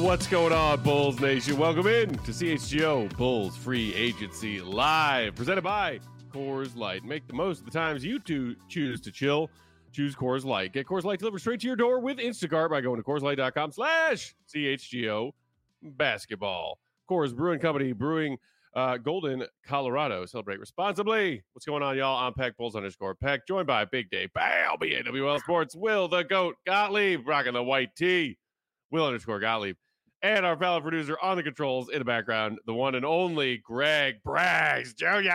What's going on, Bulls Nation? Welcome in to CHGO Bulls Free Agency Live, presented by Coors Light. Make the most of the times you choose to chill. Choose Coors Light. Get Coors Light delivered straight to your door with Instacart by going to CoorsLight.com/CHGO basketball. Coors Brewing Company, brewing Golden, Colorado. Celebrate responsibly. What's going on, y'all? I'm Peck Bulls _Peck, joined by Big Day Bal, BAWL Sports, Will the Goat Gottlieb, rocking the white tee, Will _Gottlieb, and our fellow producer on the controls in the background, the one and only Greg Braggs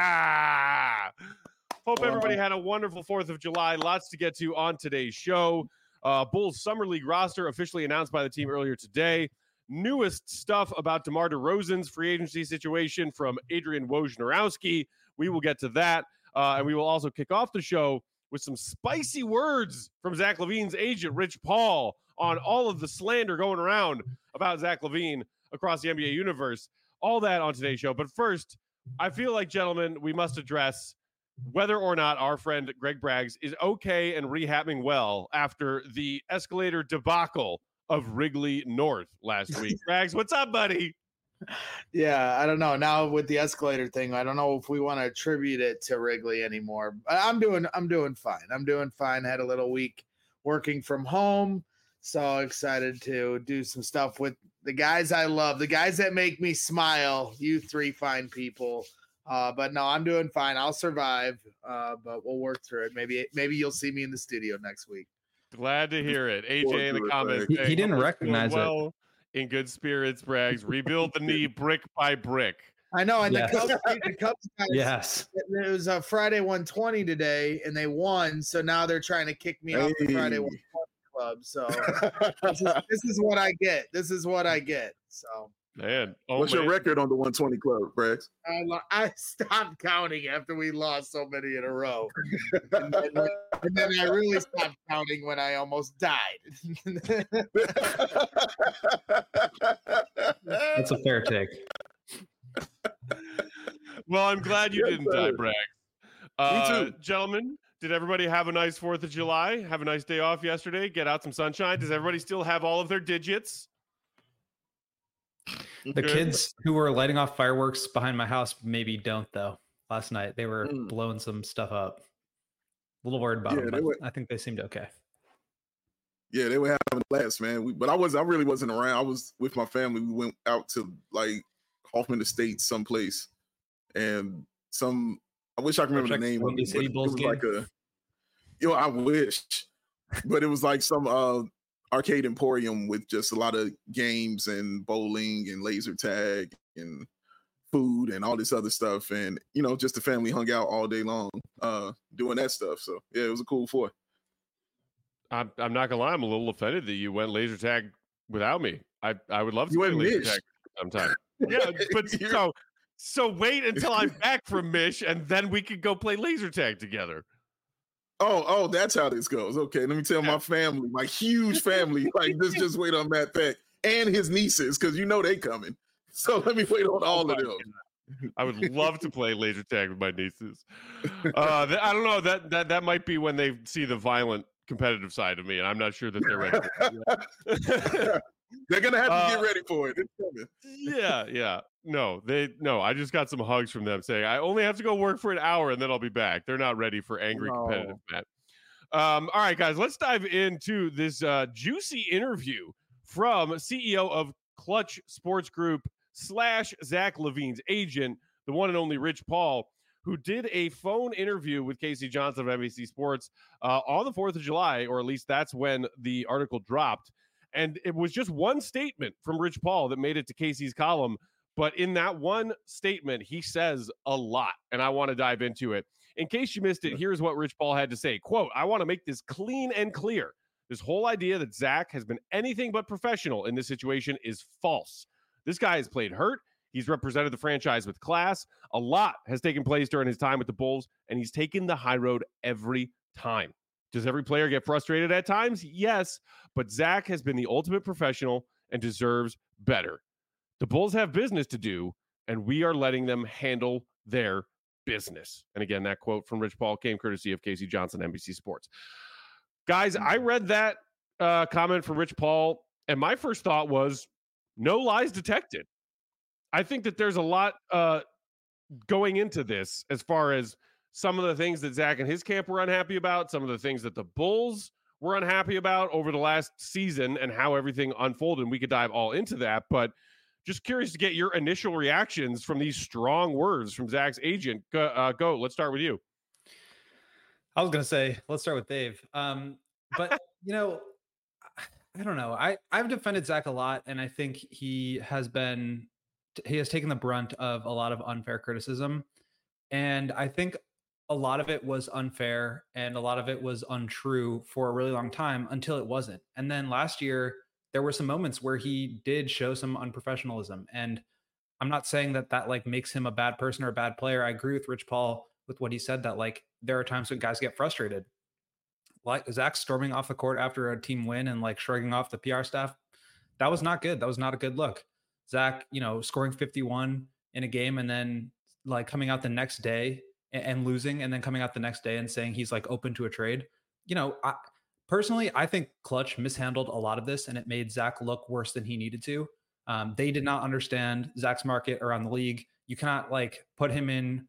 Jr. Hope everybody had a wonderful 4th of July. Lots to get to on today's show. Bulls Summer League roster officially announced by the team earlier today. Newest stuff about DeMar DeRozan's free agency situation from Adrian Wojnarowski. We will get to that. And we will also kick off the show with some spicy words from Zach LaVine's agent, Rich Paul, on all of the slander going around about Zach LaVine across the NBA universe. All that on today's show. But first, I feel like, gentlemen, we must address whether or not our friend Greg Braggs is okay and rehabbing well after the escalator debacle of Wrigley North last week. Braggs, what's up, buddy? Yeah, I don't know. Now with the escalator thing, I don't know if we want to attribute it to Wrigley anymore. I'm doing fine. I'm doing fine. Had a little week working from home. So excited to do some stuff with the guys I love, the guys that make me smile. You three fine people. But no, I'm doing fine. I'll survive. But we'll work through it. Maybe you'll see me in the studio next week. Glad to hear it. AJ in the comments. He didn't recognize it. In good spirits, Braggs. Rebuild the knee brick by brick. I know. And yes. the Cubs guys, yes. It was a Friday 120 today, and they won. So now they're trying to kick me off the Friday 120 club. So this is what I get. This is what I get. So. Man, what's your record on the 120 club, Braggs? I stopped counting after we lost so many in a row, and then I really stopped counting when I almost died. That's a fair take. Well, I'm glad you didn't die, Braggs. Me too. Gentlemen, did everybody have a nice 4th of July? Have a nice day off yesterday? Get out some sunshine? Does everybody still have all of their digits? The kids who were lighting off fireworks behind my house maybe don't, though. Last night they were blowing some stuff up. A little worried about them, but I think they seemed okay. Yeah, they were having a blast, man. I really wasn't around. I was with my family. We went out to like Hoffman Estates, someplace, and I wish I could remember the name of it. City Bulls game. Like I wish, but it was like some arcade emporium with just a lot of games and bowling and laser tag and food and all this other stuff. And, just the family hung out all day long doing that stuff. So, yeah, it was a cool 4th. I'm not gonna lie, I'm a little offended that you went laser tag without me. I would love to play laser tag sometime. Yeah, but so wait until I'm back from Mish, and then we could go play laser tag together. Oh, that's how this goes. Okay, let me tell my family, my huge family, like just wait on Matt Peck and his nieces, because they coming. So let me wait on all of them. I would love to play laser tag with my nieces. I don't know, that might be when they see the violent competitive side of me, and I'm not sure that they're ready for it. They're gonna have to get ready for it. It's coming. Yeah. No, I just got some hugs from them saying I only have to go work for an hour and then I'll be back. They're not ready for angry competitive Matt. All right, guys, let's dive into this juicy interview from CEO of Clutch Sports Group / Zach LaVine's agent, the one and only Rich Paul, who did a phone interview with Casey Johnson of NBC Sports on the 4th of July, or at least that's when the article dropped. And it was just one statement from Rich Paul that made it to Casey's column. But in that one statement, he says a lot, and I want to dive into it. In case you missed it, here's what Rich Paul had to say. Quote, "I want to make this clean and clear. This whole idea that Zach has been anything but professional in this situation is false. This guy has played hurt. He's represented the franchise with class. A lot has taken place during his time with the Bulls, and he's taken the high road every time. Does every player get frustrated at times? Yes, but Zach has been the ultimate professional and deserves better. The Bulls have business to do, and we are letting them handle their business." And again, that quote from Rich Paul came courtesy of Casey Johnson, NBC Sports. Guys, I read that comment from Rich Paul, and my first thought was, no lies detected. I think that there's a lot going into this as far as some of the things that Zach and his camp were unhappy about, some of the things that the Bulls were unhappy about over the last season and how everything unfolded. And we could dive all into that, but just curious to get your initial reactions from these strong words from Zach's agent. Go. Let's start with you. I was going to say, let's start with Dave. But, I don't know. I've defended Zach a lot, and I think he has taken the brunt of a lot of unfair criticism. And I think a lot of it was unfair and a lot of it was untrue for a really long time until it wasn't. And then last year, there were some moments where he did show some unprofessionalism. And I'm not saying that like makes him a bad person or a bad player. I agree with Rich Paul with what he said, that like there are times when guys get frustrated. Like Zach storming off the court after a team win and like shrugging off the PR staff. That was not good. That was not a good look. Zach, scoring 51 in a game and then like coming out the next day and losing and then coming out the next day and saying he's like open to a trade. Personally, I think Clutch mishandled a lot of this and it made Zach look worse than he needed to. They did not understand Zach's market around the league. You cannot like put him in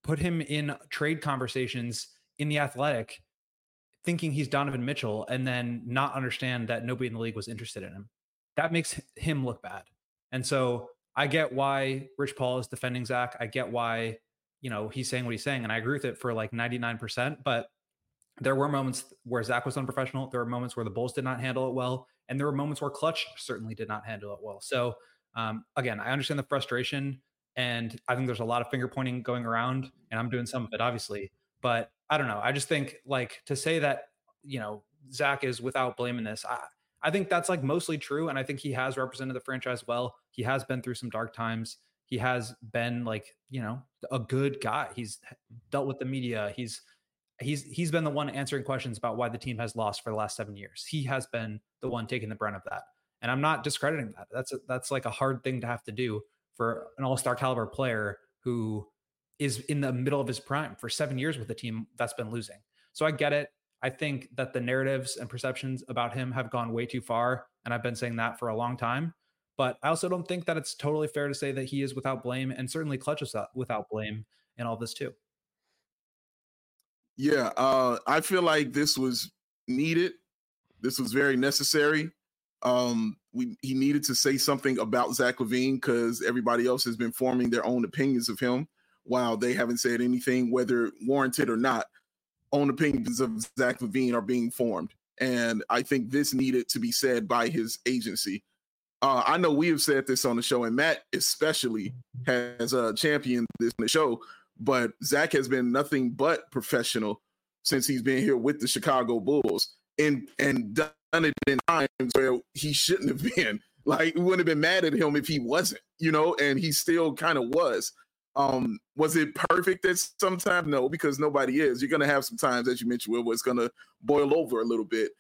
trade conversations in the Athletic thinking he's Donovan Mitchell and then not understand that nobody in the league was interested in him. That makes him look bad. And so I get why Rich Paul is defending Zach. I get why, he's saying what he's saying. And I agree with it for like 99%, but there were moments where Zach was unprofessional. There were moments where the Bulls did not handle it well. And there were moments where Clutch certainly did not handle it well. So again, I understand the frustration and I think there's a lot of finger pointing going around and I'm doing some of it obviously, but I don't know. I just think like to say that, Zach is without blame in this. I think that's like mostly true. And I think he has represented the franchise well. He has been through some dark times. He has been like, a good guy. He's dealt with the media. He's been the one answering questions about why the team has lost for the last 7 years. He has been the one taking the brunt of that. And I'm not discrediting that. That's like a hard thing to have to do for an all-star caliber player who is in the middle of his prime for 7 years with a team that's been losing. So I get it. I think that the narratives and perceptions about him have gone way too far. And I've been saying that for a long time. But I also don't think that it's totally fair to say that he is without blame, and certainly Clutch is without blame in all this too. Yeah, I feel like this was needed. This was very necessary. He needed to say something about Zach LaVine because everybody else has been forming their own opinions of him while they haven't said anything, whether warranted or not. Own opinions of Zach LaVine are being formed. And I think this needed to be said by his agency. I know we have said this on the show, and Matt especially has championed this on the show, but Zach has been nothing but professional since he's been here with the Chicago Bulls and done it in times where he shouldn't have been. Like, we wouldn't have been mad at him if he wasn't, and he still kind of was. Was it perfect at sometimes? No, because nobody is. You're going to have some times, as you mentioned, where it's going to boil over a little bit.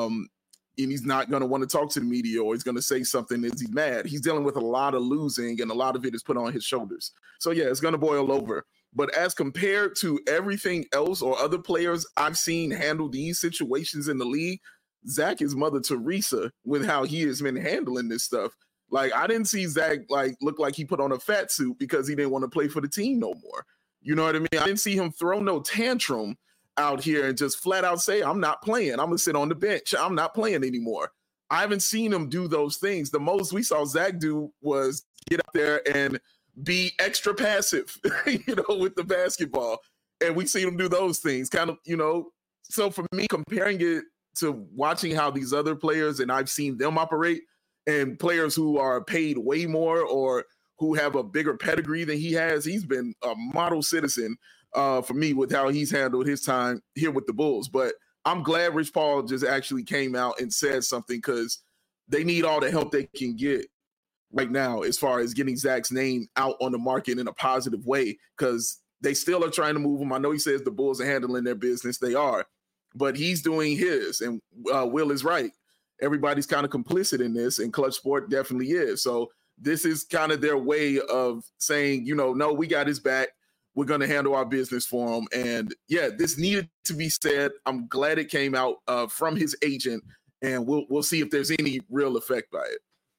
And he's not going to want to talk to the media, or he's going to say something as he's mad. He's dealing with a lot of losing, and a lot of it is put on his shoulders. So, yeah, it's going to boil over. But as compared to everything else or other players I've seen handle these situations in the league, Zach is Mother Teresa with how he has been handling this stuff. Like, I didn't see Zach look like he put on a fat suit because he didn't want to play for the team no more. You know what I mean? I didn't see him throw no tantrum out here and just flat out say, I'm not playing. I'm going to sit on the bench. I'm not playing anymore. I haven't seen him do those things. The most we saw Zach do was get out there and be extra passive, with the basketball. And we see him do those things kind of, So for me, comparing it to watching how these other players, and I've seen them operate, and players who are paid way more or who have a bigger pedigree than he has, he's been a model citizen for me with how he's handled his time here with the Bulls. But I'm glad Rich Paul just actually came out and said something, because they need all the help they can get right now as far as getting Zach's name out on the market in a positive way, because they still are trying to move him. I know he says the Bulls are handling their business. They are, but he's doing his, and Will is right. Everybody's kind of complicit in this, and Clutch Sport definitely is. So this is kind of their way of saying, no, we got his back. We're going to handle our business for him. And yeah, this needed to be said. I'm glad it came out from his agent, and we'll see if there's any real effect by it.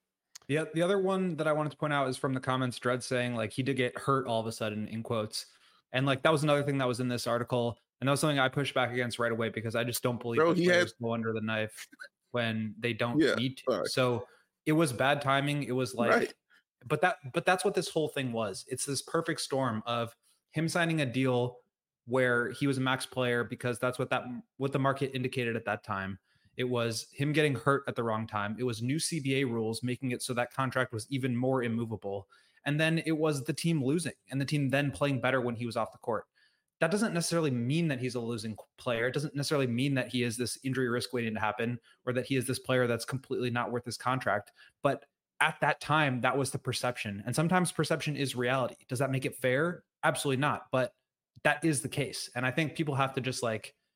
The other one that I wanted to point out is from the comments, Dredd saying like he did get hurt all of a sudden in quotes. And like that was another thing that was in this article. And that was something I pushed back against right away because I just don't believe that players go under the knife when they don't need to. Right. So it was bad timing. It was like, right. but that's what this whole thing was. It's this perfect storm of him signing a deal where he was a max player because that's what the market indicated at that time. It was him getting hurt at the wrong time. It was new CBA rules making it so that contract was even more immovable. And then it was the team losing and the team then playing better when he was off the court. That doesn't necessarily mean that he's a losing player. It doesn't necessarily mean that he is this injury risk waiting to happen or that he is this player that's completely not worth his contract. But at that time, that was the perception. And sometimes perception is reality. Does that make it fair? Absolutely not. But that is the case. And I think people have to just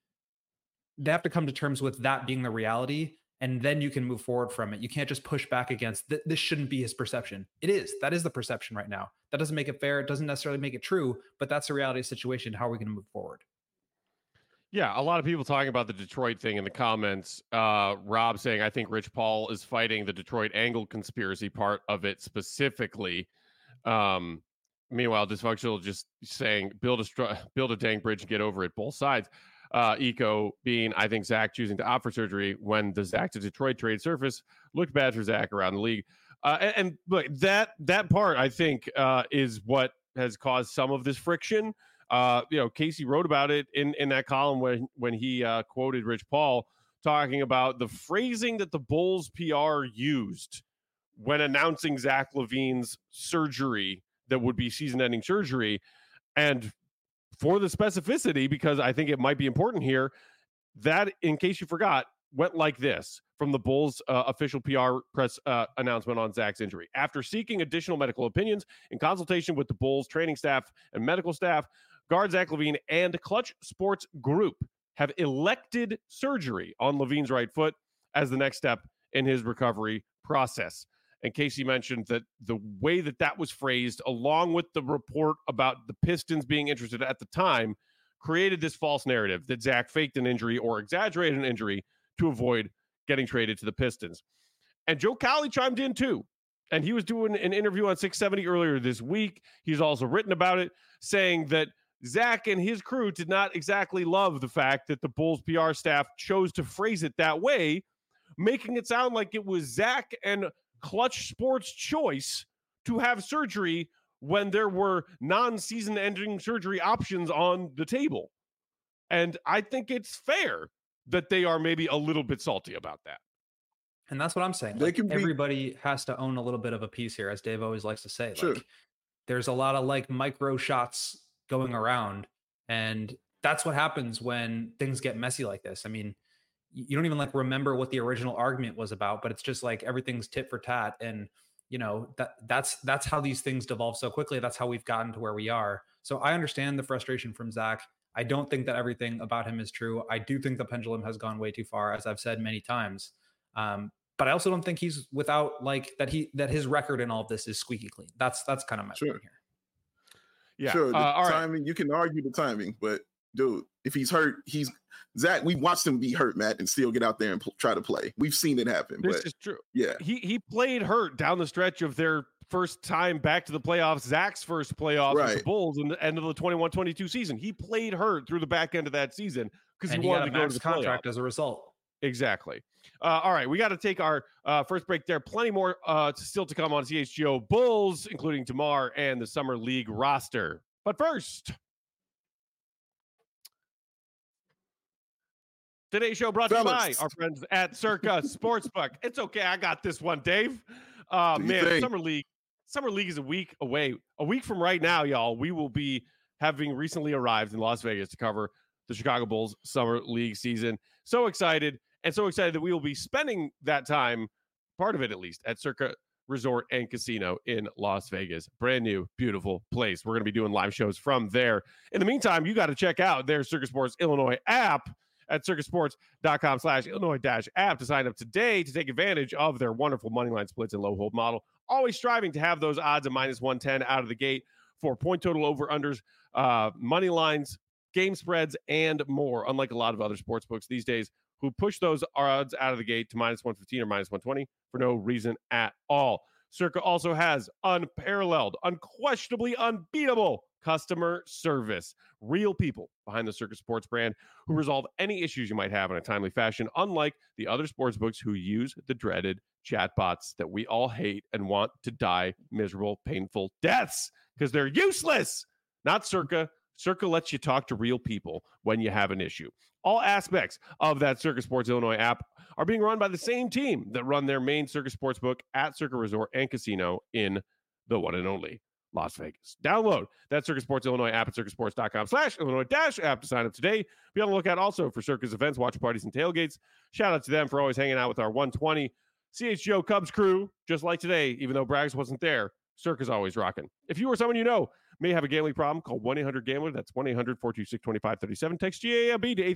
they have to come to terms with that being the reality. And then you can move forward from it. You can't just push back against this shouldn't be his perception. It is. That is the perception right now. That doesn't make it fair. It doesn't necessarily make it true, but that's the reality of the situation. How are we going to move forward? Yeah, a lot of people talking about the Detroit thing in the comments. Rob saying, I think Rich Paul is fighting the Detroit angle conspiracy part of it specifically. Meanwhile, Dysfunctional just saying, build a dang bridge and get over it, both sides. Eco being, I think Zach choosing to opt for surgery when the Zach to Detroit trade surface looked bad for Zach around the league. And look, that part, I think, is what has caused some of this friction. Casey wrote about it in that column when he quoted Rich Paul talking about the phrasing that the Bulls PR used when announcing Zach LaVine's surgery that would be season-ending surgery. And for the specificity, because I think it might be important here, that, in case you forgot, went like this from the Bulls official PR press announcement on Zach's injury. After seeking additional medical opinions in consultation with the Bulls training staff and medical staff, guard Zach LaVine and Clutch Sports Group have elected surgery on LaVine's right foot as the next step in his recovery process. And Casey mentioned that the way that was phrased, along with the report about the Pistons being interested at the time, created this false narrative that Zach faked an injury or exaggerated an injury to avoid getting traded to the Pistons. And Joe Cowley chimed in too. And he was doing an interview on 670 earlier this week. He's also written about it, saying that Zach and his crew did not exactly love the fact that the Bulls PR staff chose to phrase it that way, making it sound like it was Zach and Clutch Sports' choice to have surgery when there were non-season ending surgery options on the table. And I think it's fair that they are maybe a little bit salty about that. And that's what I'm saying. Everybody has to own a little bit of a piece here, as Dave always likes to say. Sure. There's a lot of micro shots going around, and that's what happens when things get messy like this. I mean, you don't even remember what the original argument was about, but it's just everything's tit for tat. And that's how these things devolve so quickly. That's how we've gotten to where we are. So I understand the frustration from Zach. I don't think that everything about him is true. I do think the pendulum has gone way too far, as I've said many times. But I also don't think he's without that his record in all of this is squeaky clean. That's kind of my point here. Yeah. Sure. The timing, right. You can argue the timing, but dude, if he's hurt, Zach, we watched him be hurt, Matt, and still get out there and try to play. We've seen it happen. This is true. Yeah. He played hurt down the stretch of their first time back to the playoffs, Zach's first playoffs with the Bulls in the end of the 21-22 season. He played hurt through the back end of that season because he wanted to go to the contract as a result. Exactly. All right, we got to take our first break there. Plenty more still to come on CHGO Bulls, including Tamar and the Summer League roster. But first, today's show brought to you by our friends at Circa Sportsbook. It's okay, I got this one, Dave. Man, Summer League is a week away. A week from right now, y'all, we will be having recently arrived in Las Vegas to cover the Chicago Bulls Summer League season. So excited, and so excited that we will be spending that time, part of it at least, at Circa Resort and Casino in Las Vegas. Brand new, beautiful place. We're going to be doing live shows from there. In the meantime, you got to check out their Circa Sports Illinois app at circusports.com/Illinois-app to sign up today to take advantage of their wonderful moneyline splits and low hold model. Always striving to have those odds of -110 out of the gate for point total over-unders, money lines, game spreads, and more. Unlike a lot of other sports books these days who push those odds out of the gate to -115 or -120 for no reason at all. Circa also has unparalleled, unquestionably unbeatable customer service. Real people behind the Circa Sports brand who resolve any issues you might have in a timely fashion, unlike the other sportsbooks who use the dreaded chatbots that we all hate and want to die miserable, painful deaths because they're useless. Not Circa. Circa lets you talk to real people when you have an issue. All aspects of that Circa Sports Illinois app are being run by the same team that run their main Circa Sportsbook at Circa Resort and Casino in the one and only Las Vegas. Download that Circa Sports Illinois app at circasports.com/Illinois-app to sign up today. Be on the lookout also for Circa's events, watch parties, and tailgates. Shout out to them for always hanging out with our 120 CHGO Cubs crew, just like today, even though Braggs wasn't there. Circa's always rocking. If you or someone you know may have a gambling problem, call 1-800-GAMBLER. That's 1-800-426-2537. Text GAMB to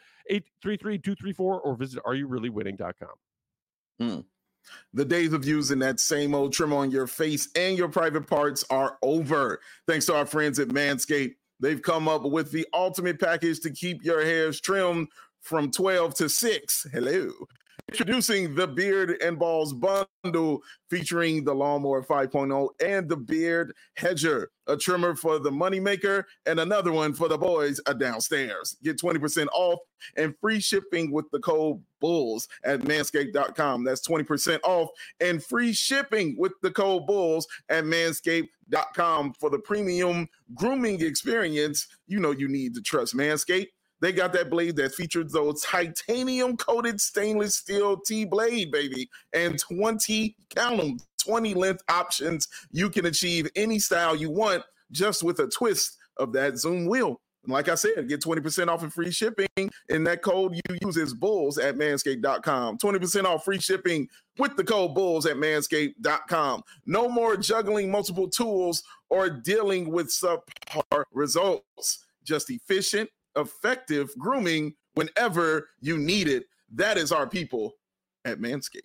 833-234 or visit areyoureallywinning.com. The days of using that same old trim on your face and your private parts are over. Thanks to our friends at Manscaped. They've come up with the ultimate package to keep your hairs trimmed from 12 to 6. Hello. Introducing the Beard and Balls Bundle featuring the Lawnmower 5.0 and the Beard Hedger, a trimmer for the moneymaker and another one for the boys downstairs. Get 20% off and free shipping with the code BULLS at manscaped.com. That's 20% off and free shipping with the code BULLS at manscaped.com for the premium grooming experience you know you need to trust Manscaped. They got that blade that features those titanium-coated stainless steel T-blade, baby, and 20 length options. You can achieve any style you want just with a twist of that Zoom wheel. And like I said, get 20% off and free shipping, and that code you use is BULLS at manscaped.com. 20% off free shipping with the code BULLS at manscaped.com. No more juggling multiple tools or dealing with subpar results. Just efficient, effective grooming whenever you need it. That is our people at Manscaped.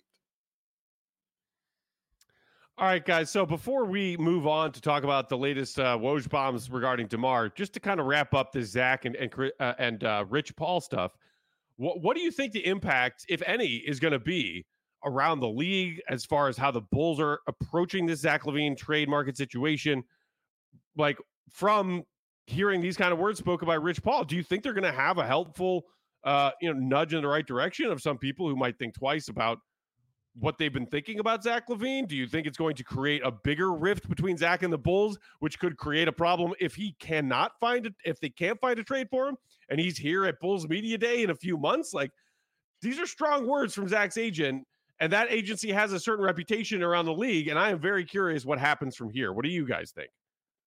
All right, guys. So before we move on to talk about the latest Woj bombs regarding DeMar, just to kind of wrap up the Zach and Rich Paul stuff, what do you think the impact, if any, is going to be around the league as far as how the Bulls are approaching this Zach LaVine trade market situation? Like, from hearing these kind of words spoken by Rich Paul, do you think they're going to have a helpful, nudge in the right direction of some people who might think twice about what they've been thinking about Zach LaVine? Do you think it's going to create a bigger rift between Zach and the Bulls, which could create a problem if they can't find a trade for him and he's here at Bulls Media Day in a few months? Like, these are strong words from Zach's agent, and that agency has a certain reputation around the league. And I am very curious what happens from here. What do you guys think?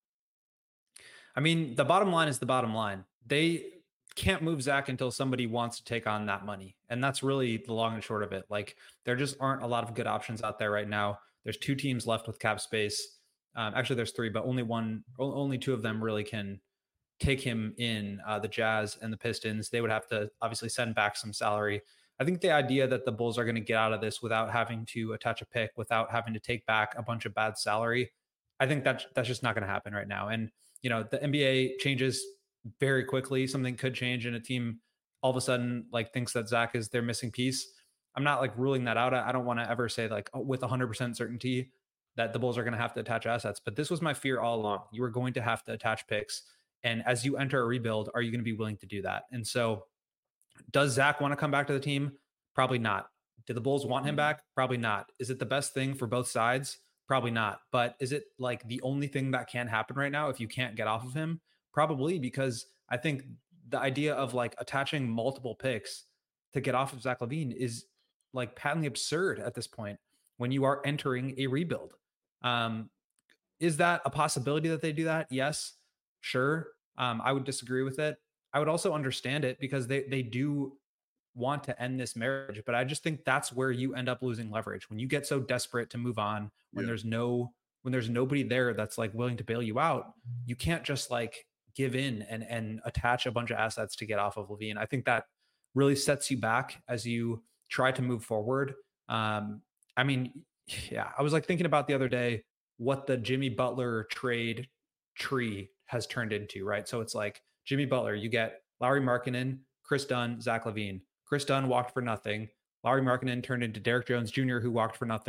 I mean, the bottom line is the bottom line. They can't move Zach until somebody wants to take on that money. And that's really the long and short of it. Like, there just aren't a lot of good options out there right now. There's 2 teams left with cap space. Actually, there's 3, but only 2 of them really can take him in, the Jazz and the Pistons. They would have to obviously send back some salary. I think the idea that the Bulls are going to get out of this without having to attach a pick, without having to take back a bunch of bad salary, I think that's just not going to happen right now. And the NBA changes very quickly. Something could change and a team all of a sudden thinks that Zach is their missing piece. I'm not ruling that out. I don't want to ever say with 100% certainty that the Bulls are going to have to attach assets, but this was my fear all along. You were going to have to attach picks. And as you enter a rebuild, are you going to be willing to do that? And so does Zach want to come back to the team? Probably not. Do the Bulls want him back? Probably not. Is it the best thing for both sides? Probably not. But is it the only thing that can happen right now if you can't get off of him? Probably, because I think the idea of attaching multiple picks to get off of Zach LaVine is patently absurd at this point when you are entering a rebuild. Is that a possibility that they do that? Yes, sure. I would disagree with it. I would also understand it because they do want to end this marriage, but I just think that's where you end up losing leverage when you get so desperate to move on. When there's nobody there that's willing to bail you out, you can't just give in and attach a bunch of assets to get off of LaVine. I think that really sets you back as you try to move forward. I was thinking about the other day what the Jimmy Butler trade tree has turned into, right? So it's Jimmy Butler, you get Lauri Markkanen, Chris Dunn, Zach LaVine. Chris Dunn walked for nothing. Lauri Markkanen turned into Derrick Jones Jr., who walked for nothing.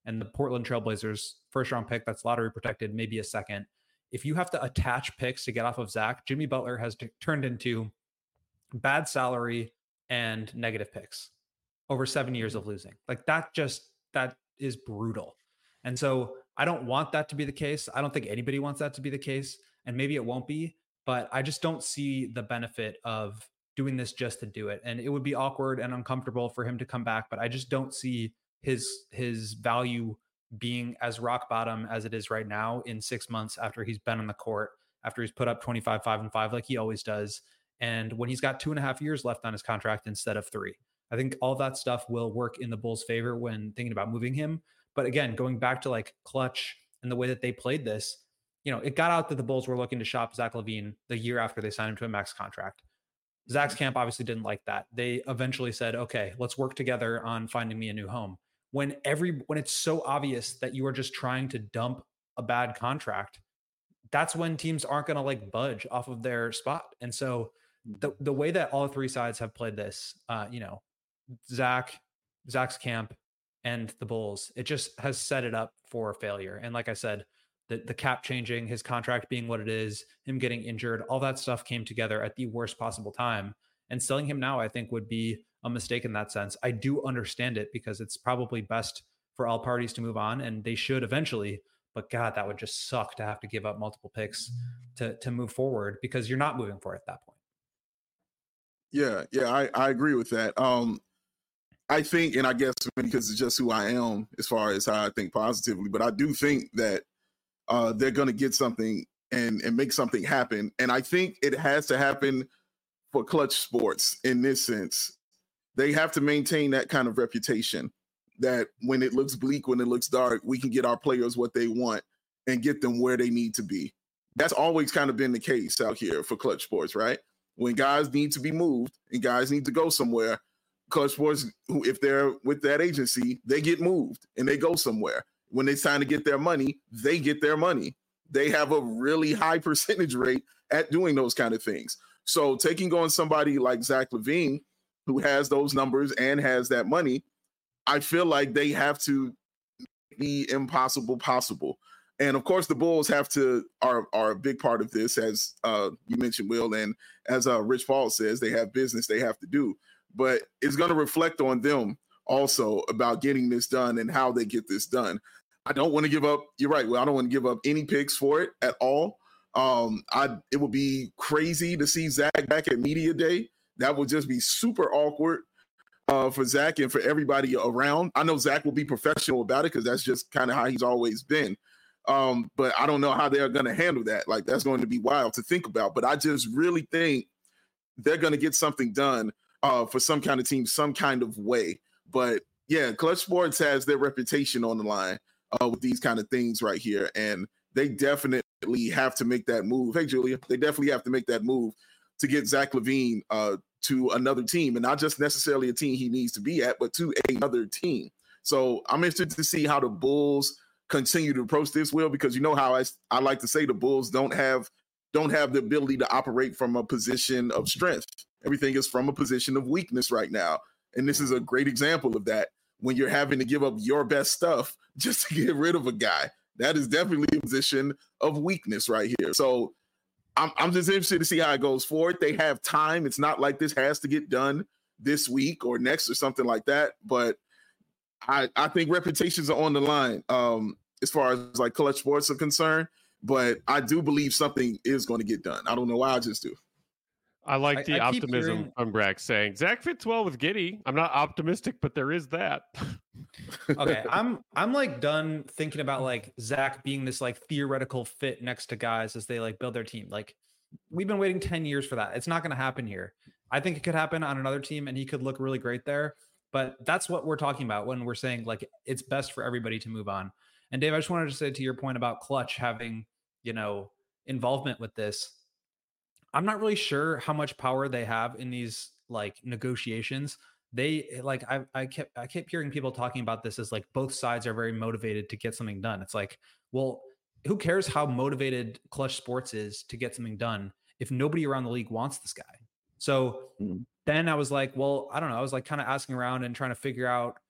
and the Portland Trailblazers first round pick that's lottery protected, maybe a second. If you have to attach picks to get off of Zach, Jimmy Butler has turned into bad salary and negative picks over 7 years of losing. Like that is brutal. And so I don't want that to be the case. I don't think anybody wants that to be the case. And maybe it won't be, but I just don't see the benefit of doing this just to do it. And it would be awkward and uncomfortable for him to come back, but I just don't see his value being as rock bottom as it is right now in 6 months after he's been on the court, after he's put up 25, 5 and 5, like he always does. And when he's got 2.5 years left on his contract instead of 3, I think all that stuff will work in the Bulls' favor when thinking about moving him. But again, going back to like Clutch and the way that they played this, it got out that the Bulls were looking to shop Zach LaVine the year after they signed him to a max contract. Zach's camp obviously didn't like that. They eventually said, okay, let's work together on finding me a new home. When it's so obvious that you are just trying to dump a bad contract, that's when teams aren't going to like budge off of their spot. And so the way that all three sides have played this, Zach's camp and the Bulls, it just has set it up for failure. And like I said, the cap changing, his contract being what it is, him getting injured, all that stuff came together at the worst possible time. And selling him now, I think, would be a mistake in that sense. I do understand it because it's probably best for all parties to move on, and they should eventually. But God, that would just suck to have to give up multiple picks to move forward because you're not moving forward at that point. Yeah, I agree with that. I think, and I guess because it's just who I am as far as how I think positively, but I do think that they're going to get something and make something happen. And I think it has to happen for Clutch Sports in this sense. They have to maintain that kind of reputation that when it looks bleak, when it looks dark, we can get our players what they want and get them where they need to be. That's always kind of been the case out here for Clutch Sports, right? When guys need to be moved and guys need to go somewhere, Clutch Sports, if they're with that agency, they get moved and they go somewhere. When it's time to get their money, they get their money. They have a really high percentage rate at doing those kind of things. So taking on somebody like Zach LaVine, who has those numbers and has that money, I feel like they have to be impossible possible. And of course, the Bulls are a big part of this, as you mentioned, Will, and as Rich Paul says, they have business they have to do. But it's going to reflect on them also about getting this done and how they get this done. I don't want to give up. You're right. Well, I don't want to give up any picks for it at all. It would be crazy to see Zach back at Media Day. That would just be super awkward for Zach and for everybody around. I know Zach will be professional about it because that's just kind of how he's always been. But I don't know how they're going to handle that. Like, that's going to be wild to think about. But I just really think they're going to get something done for some kind of team, some kind of way. But yeah, Clutch Sports has their reputation on the line with these kind of things right here. And they definitely have to make that move. Hey, Julia, they definitely have to make that move to get Zach LaVine to another team, and not just necessarily a team he needs to be at, but to another team. So I'm interested to see how the Bulls continue to approach this, Will, because you know how I like to say the Bulls don't have the ability to operate from a position of strength. Everything is from a position of weakness right now. And this is a great example of that. When you're having to give up your best stuff just to get rid of a guy, that is definitely a position of weakness right here. So I'm just interested to see how it goes forward. They have time. It's not like this has to get done this week or next or something like that. But I think reputations are on the line as far as like Clutch Sports are concerned. But I do believe something is going to get done. I don't know why, I just do. I like the optimism from Brack saying Zach fits well with Giddey. I'm not optimistic, but there is that. Okay, I'm like done thinking about like Zach being this like theoretical fit next to guys as they like build their team. Like, we've been waiting 10 years for that. It's not going to happen here. I think it could happen on another team and he could look really great there. But that's what we're talking about when we're saying like it's best for everybody to move on. And Dave, I just wanted to say to your point about Clutch having, involvement with this. I'm not really sure how much power they have in these like negotiations. They like, I kept hearing people talking about this as like both sides are very motivated to get something done. It's like, well, who cares how motivated Clutch Sports is to get something done if nobody around the league wants this guy? So then I was like, well, I don't know. I was like kind of asking around and trying to figure out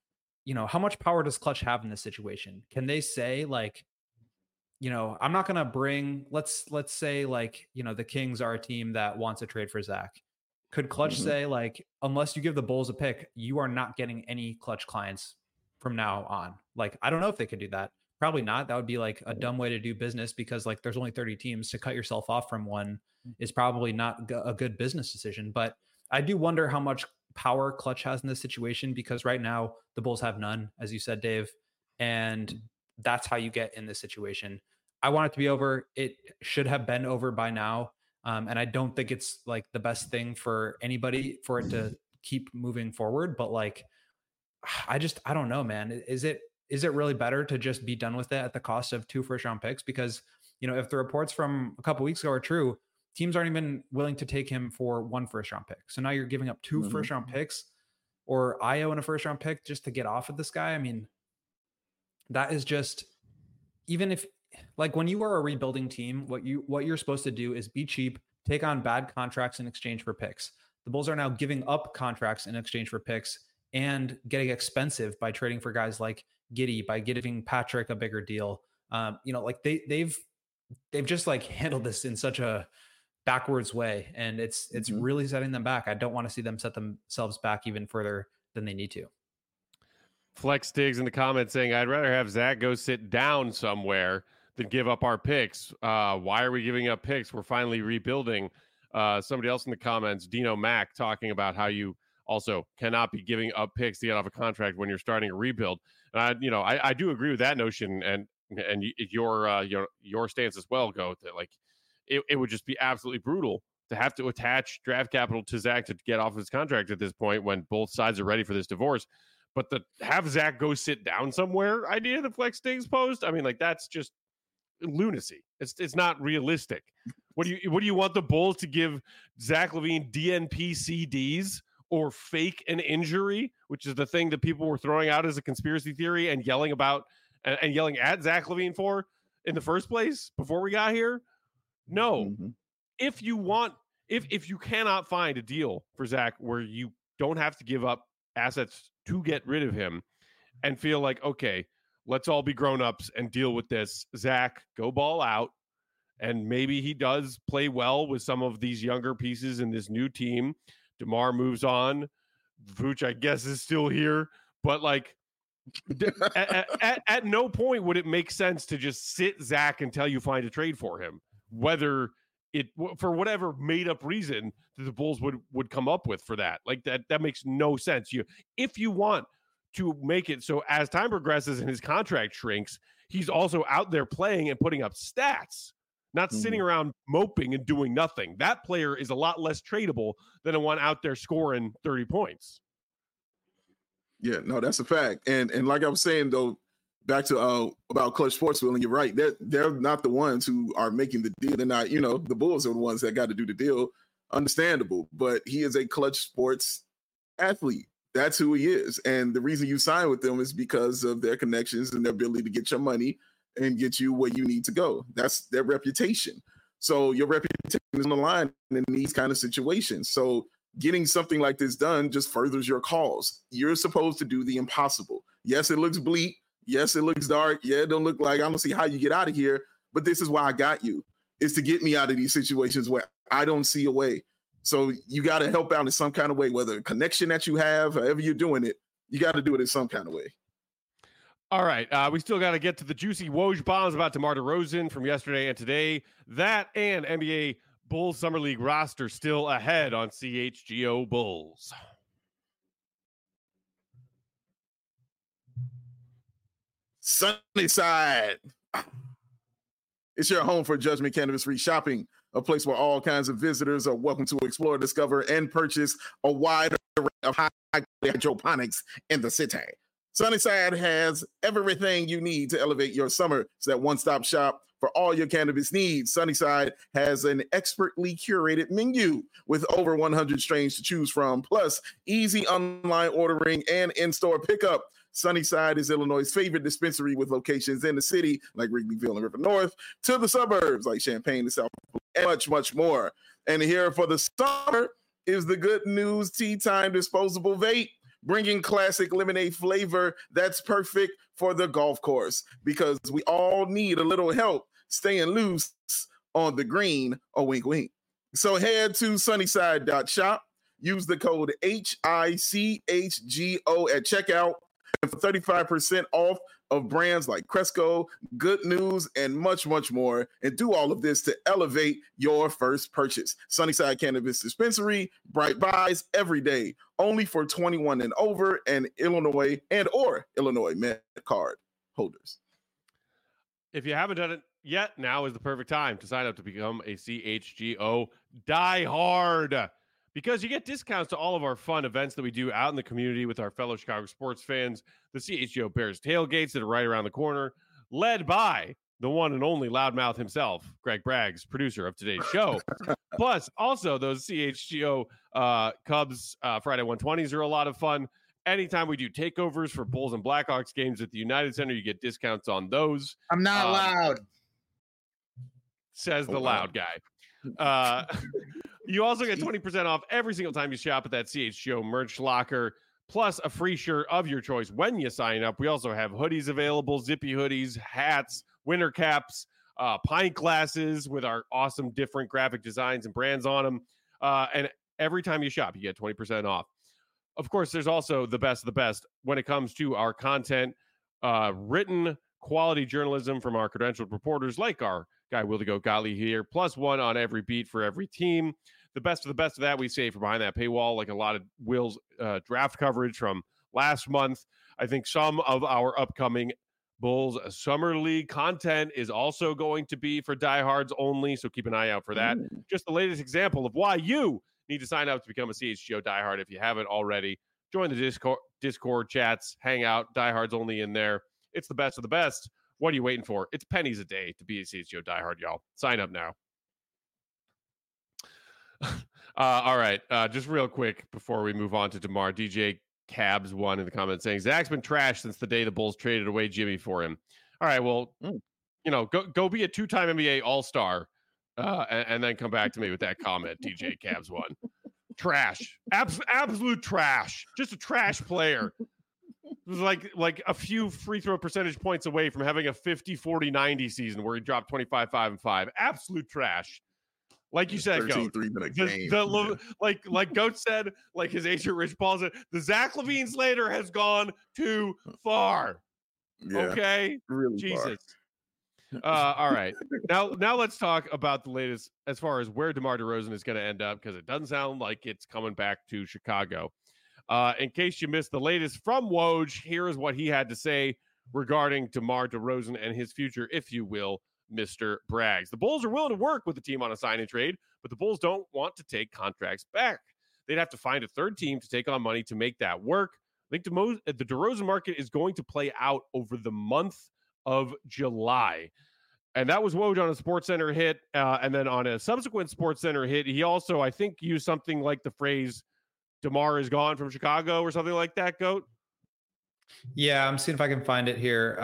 how much power does Clutch have in this situation? Can they say like, I'm not going to bring, let's say like, the Kings are a team that wants a trade for Zach. Could Clutch say like, unless you give the Bulls a pick, you are not getting any Clutch clients from now on? Like, I don't know if they could do that. Probably not. That would be like a dumb way to do business, because like there's only 30 teams. To cut yourself off from one is probably not a good business decision. But I do wonder how much power Clutch has in this situation, because right now the Bulls have none, as you said, Dave. And that's how you get in this situation. I want it to be over. It should have been over by now. And I don't think it's like the best thing for anybody for it to keep moving forward. But like, I don't know, man. Is it really better to just be done with it at the cost of 2 first-round picks? Because, if the reports from a couple weeks ago are true, teams aren't even willing to take him for 1 first-round pick. So now you're giving up 2 first-round picks, or Ayo and a first-round pick just to get off of this guy. I mean, that is just, even if, like, when you are a rebuilding team, what you're supposed to do is be cheap, take on bad contracts in exchange for picks. The Bulls are now giving up contracts in exchange for picks and getting expensive by trading for guys like Giddey, by giving Patrick a bigger deal. Like they've just like handled this in such a backwards way, and it's really setting them back. I don't want to see them set themselves back even further than they need to. Flex Diggs in the comments saying, I'd rather have Zach go sit down somewhere than give up our picks. Why are we giving up picks? We're finally rebuilding. Somebody else in the comments, Dino Mac, talking about how you also cannot be giving up picks to get off a contract when you're starting a rebuild. And I do agree with that notion, and your stance as well, Goat, that like it would just be absolutely brutal to have to attach draft capital to Zach to get off his contract at this point when both sides are ready for this divorce. But the have Zach go sit down somewhere idea that Flex Diggs posed, I mean, like, that's just lunacy. It's not realistic. What do you want the Bulls to give Zach LaVine DNP CDs or fake an injury, which is the thing that people were throwing out as a conspiracy theory and yelling about and yelling at Zach LaVine for in the first place before we got here? No. If you cannot find a deal for Zach where you don't have to give up assets to get rid of him and feel like, okay, let's all be grown-ups and deal with this. Zach, go ball out. And maybe he does play well with some of these younger pieces in this new team. DeMar moves on. Vooch, I guess, is still here. But, like, at no point would it make sense to just sit Zach until you find a trade for him, whether it, for whatever made-up reason that the Bulls would come up with for that. Like, that makes no sense. If you want to make it so as time progresses and his contract shrinks, he's also out there playing and putting up stats, not sitting around moping and doing nothing. That player is a lot less tradable than the one out there scoring 30 points. Yeah, no, that's a fact. And like I was saying, though, back to about Clutch Sports, Will, and you're right. They're not the ones who are making the deal. They're not, the Bulls are the ones that got to do the deal. Understandable. But he is a Clutch Sports athlete. That's who he is. And the reason you sign with them is because of their connections and their ability to get your money and get you where you need to go. That's their reputation. So your reputation is on the line in these kind of situations. So getting something like this done just furthers your cause. You're supposed to do the impossible. Yes, it looks bleak. Yes, it looks dark. Yeah, it don't look like, I don't see how you get out of here, but this is why I got you, is to get me out of these situations where I don't see a way. So you got to help out in some kind of way, whether a connection that you have, however you're doing it, you got to do it in some kind of way. All right. We still got to get to the juicy Woj bombs about DeMar DeRozan from yesterday and today. That and NBA Bulls Summer League roster still ahead on CHGO Bulls. Sunnyside. It's your home for Judgment Cannabis-free shopping, a place where all kinds of visitors are welcome to explore, discover, and purchase a wide array of high-quality hydroponics in the city. Sunnyside has everything you need to elevate your summer. It's that one-stop shop for all your cannabis needs. Sunnyside has an expertly curated menu with over 100 strains to choose from, plus easy online ordering and in-store pickup. Sunnyside is Illinois' favorite dispensary with locations in the city like Wrigleyville and River North, to the suburbs like Champaign and South, and much, much more. And here for the summer is the Good News Tea Time disposable vape. bringing classic lemonade flavor that's perfect for the golf course, because we all need a little help staying loose on the green. A wink, wink. So head to sunnyside.shop, use the code HICHGO at checkout, and for 35% off of brands like Cresco, Good News, and much, much more. And do all of this to elevate your first purchase. Sunnyside Cannabis Dispensary, bright buys every day, only for 21 and over, and Illinois Met card holders. If you haven't done it yet, now is the perfect time to sign up to become a CHGO diehard, because you get discounts to all of our fun events that we do out in the community with our fellow Chicago sports fans. The CHGO Bears tailgates that are right around the corner, led by the one and only loudmouth himself, Greg Braggs, producer of today's show. Plus, also those CHGO Cubs Friday 120s are a lot of fun. Anytime we do takeovers for Bulls and Blackhawks games at the United Center, you get discounts on those. I'm not loud. Says the loud guy. You also get 20% off every single time you shop at that CHGO merch locker, plus a free shirt of your choice when you sign up. We also have hoodies available, zippy hoodies, hats, winter caps, pint glasses with our awesome different graphic designs and brands on them. And every time you shop, you get 20% off. Of course, there's also the best of the best when it comes to our content, written quality journalism from our credentialed reporters like our guy Wildigo Gottlieb here, plus one on every beat for every team. The best of the best of that we save from behind that paywall, like a lot of Will's draft coverage from last month. I think some of our upcoming Bulls Summer League content is also going to be for diehards only, so keep an eye out for that. Just the latest example of why you need to sign up to become a CHGO diehard if you haven't already. Join the Discord chats, hang out, diehards only in there. It's the best of the best. What are you waiting for? It's pennies a day to be a CHGO diehard, y'all. Sign up now. All right. Just real quick before we move on to DeMar, DJ Cabs one in the comments saying Zach's been trashed since the day the Bulls traded away Jimmy for him. All right. Well, go be a two-time NBA All-Star and then come back to me with that comment, DJ Cabs one. Trash. Absolute trash. Just a trash player. It was like a few free throw percentage points away from having a 50-40-90 season where he dropped 25, 5, and 5. Absolute trash. Like you said, Goat. Like Goat said, like his agent Rich Paul said, the Zach LaVine Slater has gone too far. Yeah, okay, really Jesus. All right, now let's talk about the latest as far as where DeMar DeRozan is going to end up, because it doesn't sound like it's coming back to Chicago. In case you missed the latest from Woj, here is what he had to say regarding DeMar DeRozan and his future, if you will, Mr. Braggs. The Bulls are willing to work with the team on a sign and trade, but the Bulls don't want to take contracts back. They'd have to find a third team to take on money to make that work. I think the DeRozan market is going to play out over the month of July. And that was Woj on a SportsCenter hit. And then on a subsequent SportsCenter hit, he also, I think, used something like the phrase, DeMar is gone from Chicago or something like that, Goat? Yeah, I'm seeing if I can find it here.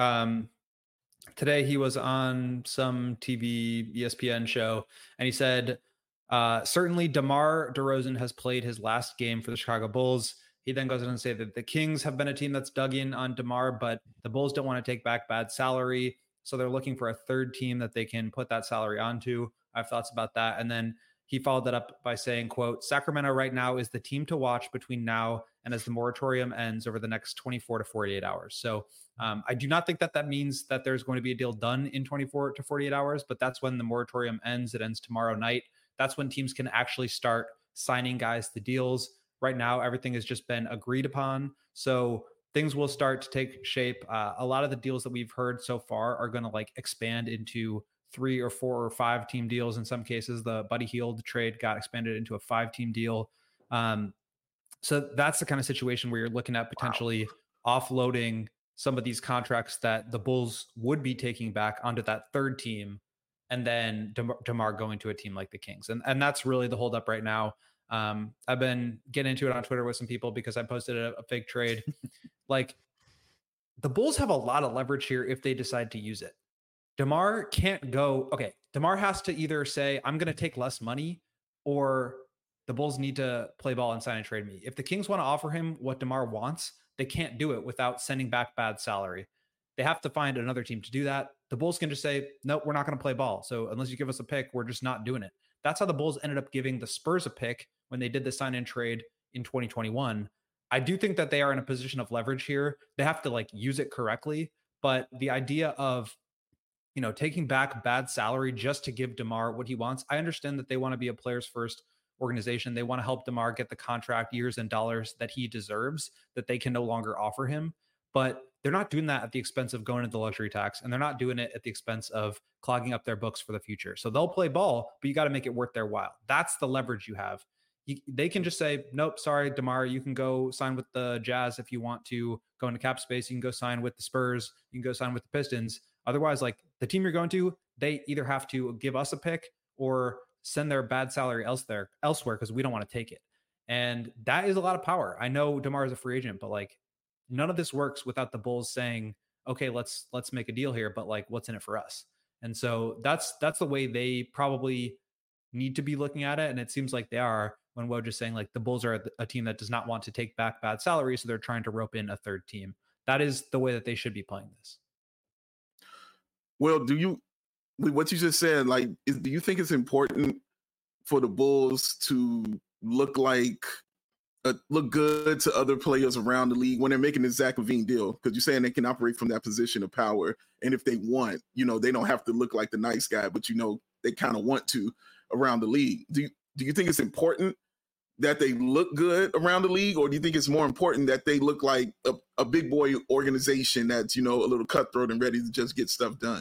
Today he was on some TV ESPN show, and he said, certainly DeMar DeRozan has played his last game for the Chicago Bulls. He then goes on to say that the Kings have been a team that's dug in on DeMar, but the Bulls don't want to take back bad salary. So they're looking for a third team that they can put that salary onto. I have thoughts about that. And then he followed that up by saying, quote, Sacramento right now is the team to watch between now and as the moratorium ends over the next 24 to 48 hours. So I do not think that means that there's going to be a deal done in 24 to 48 hours, but that's when the moratorium ends. It ends tomorrow night. That's when teams can actually start signing guys to deals. Right now, everything has just been agreed upon. So things will start to take shape. A lot of the deals that we've heard so far are going to like expand into 3 or 4 or 5 team deals. In some cases, the Buddy Hield trade got expanded into a 5-team deal. So that's the kind of situation where you're looking at potentially offloading some of these contracts that the Bulls would be taking back onto that third team, and then DeMar going to a team like the Kings. And that's really the holdup right now. I've been getting into it on Twitter with some people because I posted a fake trade. Like, the Bulls have a lot of leverage here if they decide to use it. DeMar can't go, okay, DeMar has to either say, I'm going to take less money, or the Bulls need to play ball and sign and trade me. If the Kings want to offer him what DeMar wants, they can't do it without sending back bad salary. They have to find another team to do that. The Bulls can just say, nope, we're not going to play ball. So unless you give us a pick, we're just not doing it. That's how the Bulls ended up giving the Spurs a pick when they did the sign and trade in 2021. I do think that they are in a position of leverage here. They have to like use it correctly. But the idea of, taking back bad salary just to give DeMar what he wants, I understand that they want to be a players first organization. They want to help DeMar get the contract, years and dollars that he deserves, that they can no longer offer him. But they're not doing that at the expense of going into the luxury tax, and they're not doing it at the expense of clogging up their books for the future. So they'll play ball, but you got to make it worth their while. That's the leverage you have. They can just say, nope, sorry, DeMar, you can go sign with the Jazz if you want to go into cap space. You can go sign with the Spurs. You can go sign with the Pistons. Otherwise, like the team you're going to, they either have to give us a pick or send their bad salary elsewhere because we don't want to take it. And that is a lot of power. I know DeMar is a free agent, but like none of this works without the Bulls saying, okay, let's make a deal here, but like what's in it for us? And so that's the way they probably need to be looking at it. And it seems like they are, when Woj is saying like the Bulls are a team that does not want to take back bad salary, so they're trying to rope in a third team. That is the way that they should be playing this. Well, what you just said, like, do you think it's important for the Bulls to look good to other players around the league when they're making the Zach LaVine deal? Because you're saying they can operate from that position of power, and if they want, they don't have to look like the nice guy, but they kind of want to around the league. Do you think it's important that they look good around the league, or do you think it's more important that they look like a big boy organization that's a little cutthroat and ready to just get stuff done?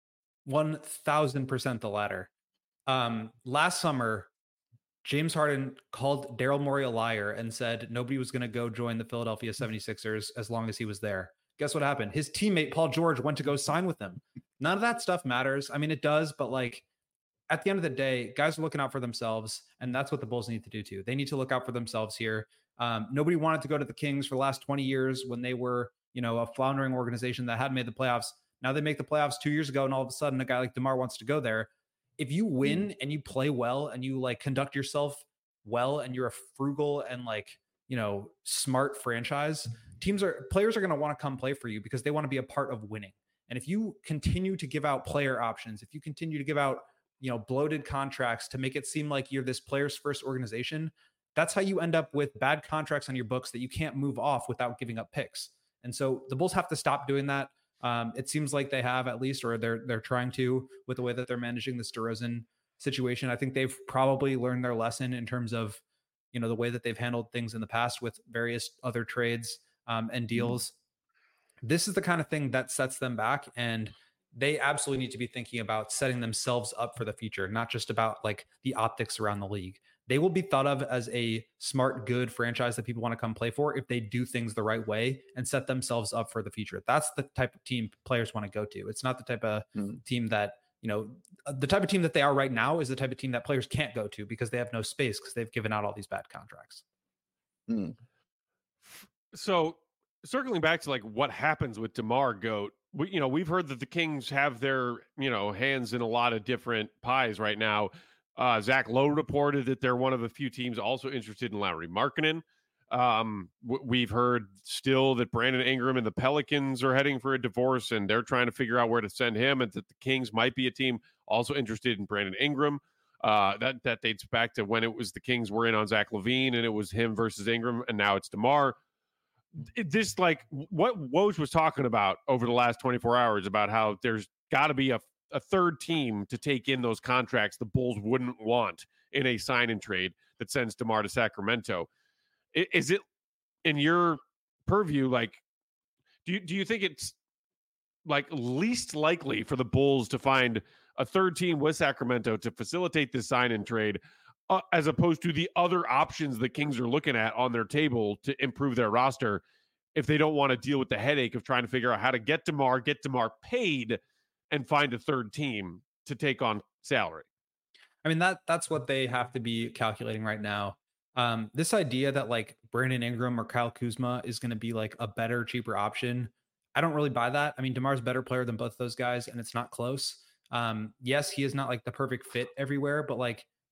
1,000% the latter. Last summer, James Harden called Daryl Morey a liar and said nobody was going to go join the Philadelphia 76ers as long as he was there. Guess what happened? His teammate Paul George went to go sign with him. None of that stuff matters. I mean, it does, but like at the end of the day, guys are looking out for themselves, and that's what the Bulls need to do too. They need to look out for themselves here. Nobody wanted to go to the Kings for the last 20 years when they were, a floundering organization that hadn't made the playoffs. Now they make the playoffs 2 years ago, and all of a sudden a guy like DeMar wants to go there. If you win and you play well and you like conduct yourself well and you're a frugal and like, smart franchise, players are going to want to come play for you because they want to be a part of winning. And if you continue to give out player options, if you continue to give out, bloated contracts to make it seem like you're this players first organization, that's how you end up with bad contracts on your books that you can't move off without giving up picks. And so the Bulls have to stop doing that. It seems like they have, at least, or they're trying to, with the way that they're managing this DeRozan situation. I think they've probably learned their lesson in terms of, the way that they've handled things in the past with various other trades and deals. This is the kind of thing that sets them back, and they absolutely need to be thinking about setting themselves up for the future, not just about like the optics around the league. They will be thought of as a smart, good franchise that people want to come play for if they do things the right way and set themselves up for the future. That's the type of team players want to go to. It's not the type of team that, the type of team that they are right now is the type of team that players can't go to because they have no space because they've given out all these bad contracts. So circling back to like what happens with DeMar Goat, we've heard that the Kings have their, hands in a lot of different pies right now. Zach Lowe reported that they're one of the few teams also interested in Lauri Markkanen. We've heard still that Brandon Ingram and the Pelicans are heading for a divorce, and they're trying to figure out where to send him, and that the Kings might be a team also interested in Brandon Ingram. That dates back to when it was the Kings were in on Zach LaVine, and it was him versus Ingram, and now it's DeMar. This, like, what Woj was talking about over the last 24 hours about how there's got to be a third team to take in those contracts the Bulls wouldn't want in a sign and trade that sends DeMar to Sacramento. Is it in your purview? Like, do you think it's like least likely for the Bulls to find a third team with Sacramento to facilitate this sign and trade, as opposed to the other options the Kings are looking at on their table to improve their roster, if they don't want to deal with the headache of trying to figure out how to get DeMar paid, and find a third team to take on salary? I mean, that's what they have to be calculating right now. This idea that like Brandon Ingram or Kyle Kuzma is going to be like a better, cheaper option, I don't really buy that. I mean, DeMar's a better player than both those guys, and it's not close. Yes, he is not like the perfect fit everywhere, but like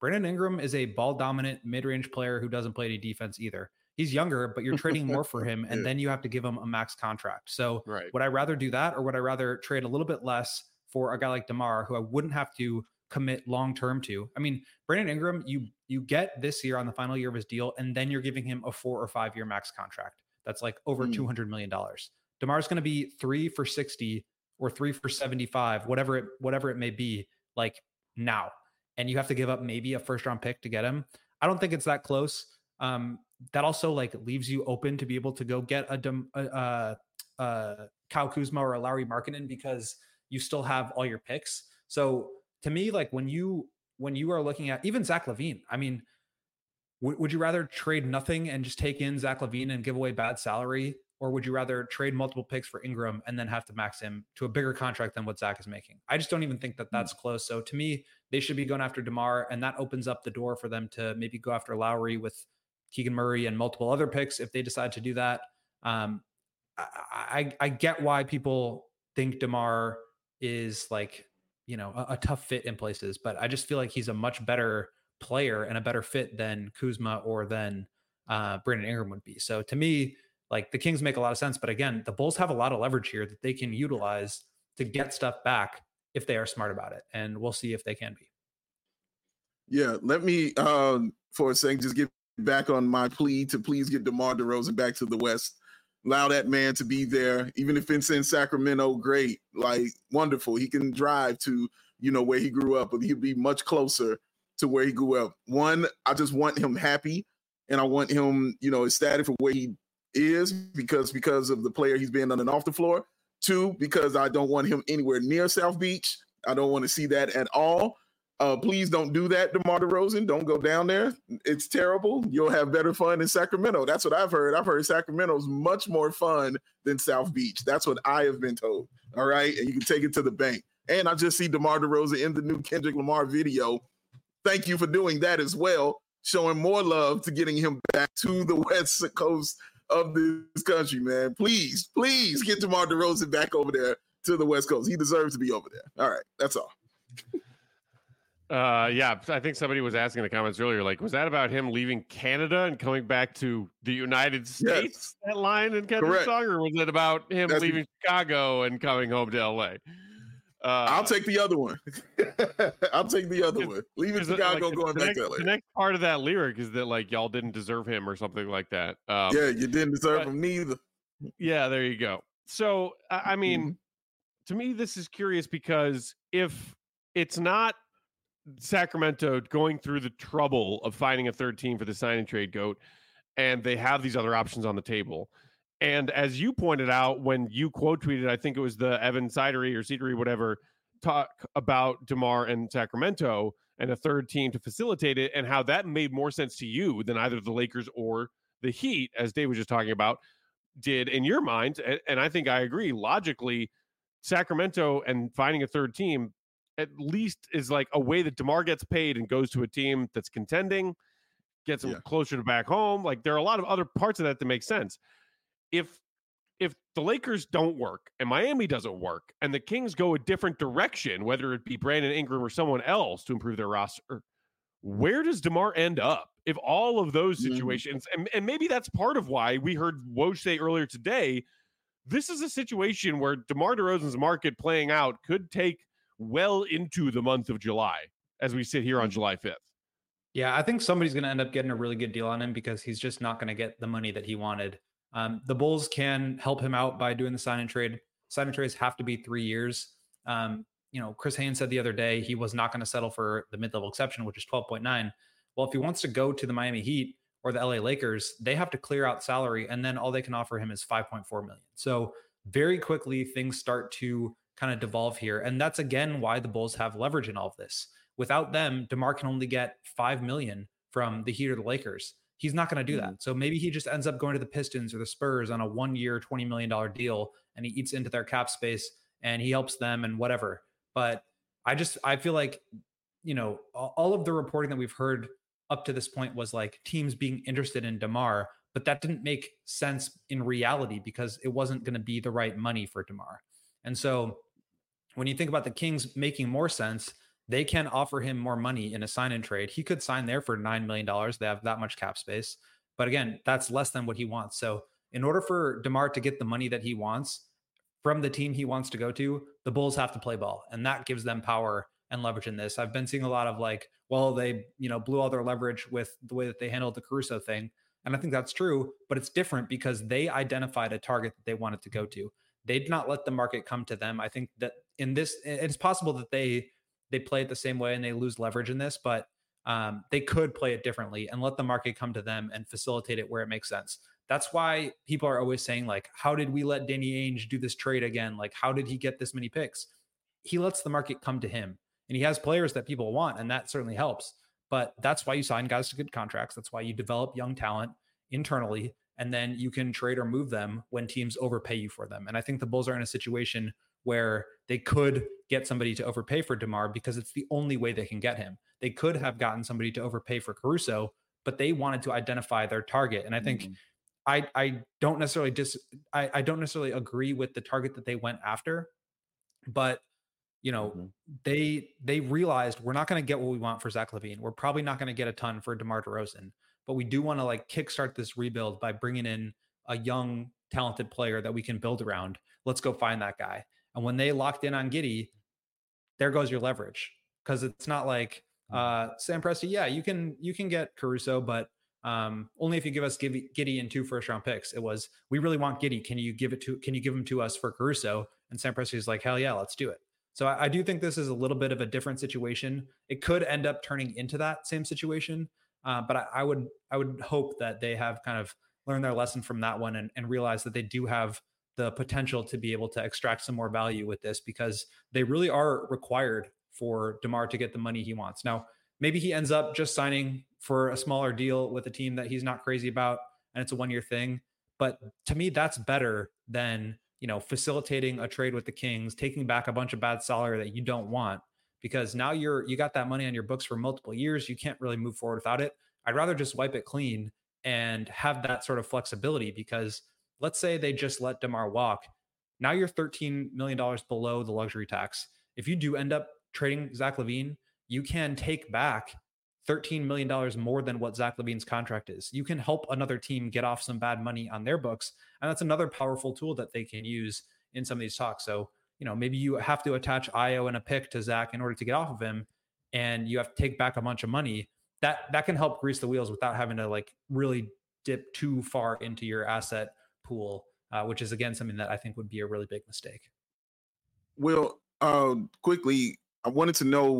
Brandon Ingram is a ball dominant mid-range player who doesn't play any defense either. He's younger, but you're trading more for him, and then you have to give him a max contract. So would I rather do that, or would I rather trade a little bit less for a guy like DeMar, who I wouldn't have to commit long-term to? I mean, Brandon Ingram, you get this year on the final year of his deal, and then you're giving him a 4 or 5 year max contract. That's like over $200 million. DeMar's going to be 3 for 60 or 3 for 75, whatever it may be, like now. And you have to give up maybe a first round pick to get him. I don't think it's that close. That also like leaves you open to be able to go get a Kyle Kuzma or a Lauri Markkanen, because you still have all your picks. So to me, like when you are looking at even Zach LaVine, I mean, would you rather trade nothing and just take in Zach LaVine and give away bad salary? Or would you rather trade multiple picks for Ingram and then have to max him to a bigger contract than what Zach is making? I just don't even think that that's close. So to me, they should be going after DeMar, and that opens up the door for them to maybe go after Lowry with Keegan Murray and multiple other picks if they decide to do that. I get why people think DeMar is like, you know, a tough fit in places, but I just feel like he's a much better player and a better fit than Kuzma or than Brandon Ingram would be. So to me, like the Kings make a lot of sense, but again, the Bulls have a lot of leverage here that they can utilize to get stuff back if they are smart about it. And we'll see if they can be. Yeah. Let me, for a second, just get back on my plea to please get DeMar DeRozan back to the West. Allow that man to be there. Even if it's in Sacramento, great. Like wonderful. He can drive to, you know, where he grew up, but he'll be much closer to where he grew up. One, I just want him happy, and I want him, you know, ecstatic for where he is because of the player he's been on and off the floor. Two, because I don't want him anywhere near South Beach. I don't want to see that at all. Please don't do that, DeMar DeRozan. Don't go down there. It's terrible. You'll have better fun in Sacramento. That's what I've heard. I've heard Sacramento's much more fun than South Beach. That's what I have been told. All right. And you can take it to the bank. And I just see DeMar DeRozan in the new Kendrick Lamar video. Thank you for doing that as well. Showing more love to getting him back to the West Coast of this country, man. Please get DeMar DeRozan back over there to the West Coast. He deserves to be over there. All right. That's all. Yeah, I think somebody was asking in the comments earlier, like, was that about him leaving Canada and coming back to the United States? Yes. That line in Kendrick's song, or was it about him leaving Chicago and coming home to LA? I'll take the other one. I'll take the other one. Leaving Chicago, like, going back to LA. The next part of that lyric is that like y'all didn't deserve him or something like that. Yeah, you didn't deserve him neither. Yeah, there you go. So I mean, to me, this is curious because if it's not Sacramento going through the trouble of finding a third team for the sign and trade goat, and they have these other options on the table. And as you pointed out, when you quote tweeted, I think it was the Evan Sidery or Cedary, whatever, talk about DeMar and Sacramento and a third team to facilitate it, and how that made more sense to you than either the Lakers or the Heat, as Dave was just talking about, did in your mind. And I think I agree. Logically, Sacramento and finding a third team at least is like a way that DeMar gets paid and goes to a team that's contending, gets him closer to back home. Like there are a lot of other parts of that make sense. If the Lakers don't work and Miami doesn't work and the Kings go a different direction, whether it be Brandon Ingram or someone else to improve their roster, where does DeMar end up? If all of those situations, and maybe that's part of why we heard Woj say earlier today, this is a situation where DeMar DeRozan's market playing out could take well into the month of July as we sit here on July 5th. Yeah, I think somebody's going to end up getting a really good deal on him because he's just not going to get the money that he wanted. The Bulls can help him out by doing the sign and trade. Sign and trades have to be 3 years. Chris Haynes said the other day he was not going to settle for the mid-level exception, which is 12.9. Well, if he wants to go to the Miami Heat or the LA Lakers, they have to clear out salary, and then all they can offer him is $5.4 million. So very quickly things start to kind of devolve here. And that's again why the Bulls have leverage in all of this. Without them, DeMar can only get $5 million from the Heat or the Lakers. He's not going to do that. So maybe he just ends up going to the Pistons or the Spurs on a 1 year, $20 million deal, and he eats into their cap space and he helps them and whatever. But I feel like, all of the reporting that we've heard up to this point was like teams being interested in DeMar, but that didn't make sense in reality because it wasn't going to be the right money for DeMar. And so when you think about the Kings making more sense, they can offer him more money in a sign-in trade. He could sign there for $9 million. They have that much cap space. But again, that's less than what he wants. So in order for DeMar to get the money that he wants from the team he wants to go to, the Bulls have to play ball. And that gives them power and leverage in this. I've been seeing a lot of like, well, they, blew all their leverage with the way that they handled the Caruso thing. And I think that's true, but it's different because they identified a target that they wanted to go to. They did not let the market come to them. I think that in this, it's possible that they play it the same way and they lose leverage in this, but they could play it differently and let the market come to them and facilitate it where it makes sense. That's why people are always saying, like, how did we let Danny Ainge do this trade again? Like, how did he get this many picks? He lets the market come to him, and he has players that people want, and that certainly helps. But that's why you sign guys to good contracts. That's why you develop young talent internally, and then you can trade or move them when teams overpay you for them. And I think the Bulls are in a situation where they could get somebody to overpay for DeMar because it's the only way they can get him. They could have gotten somebody to overpay for Caruso, but they wanted to identify their target. And I think I don't necessarily I don't necessarily agree with the target that they went after, but they realized we're not going to get what we want for Zach LaVine. We're probably not going to get a ton for DeMar DeRozan, but we do want to like kickstart this rebuild by bringing in a young, talented player that we can build around. Let's go find that guy. And when they locked in on Giddey, there goes your leverage, because it's not like Sam Presti. Yeah, you can get Caruso, but only if you give us Giddey and 2 first-round picks. It was, we really want Giddey. Can you give him to us for Caruso? And Sam Presti is like, hell yeah, let's do it. So I do think this is a little bit of a different situation. It could end up turning into that same situation, but I would hope that they have kind of learned their lesson from that one and realize that they do have the potential to be able to extract some more value with this, because they really are required for DeMar to get the money he wants. Now, maybe he ends up just signing for a smaller deal with a team that he's not crazy about, and it's a 1-year thing. But to me, that's better than, facilitating a trade with the Kings, taking back a bunch of bad salary that you don't want, because now you got that money on your books for multiple years. You can't really move forward without it. I'd rather just wipe it clean and have that sort of flexibility, because let's say they just let DeMar walk. Now you're $13 million below the luxury tax. If you do end up trading Zach LaVine, you can take back $13 million more than what Zach LaVine's contract is. You can help another team get off some bad money on their books. And that's another powerful tool that they can use in some of these talks. So, maybe you have to attach Ayo and a pick to Zach in order to get off of him, and you have to take back a bunch of money. That can help grease the wheels without having to like really dip too far into your asset pool, which is again something that I think would be a really big mistake. Well, quickly, I wanted to know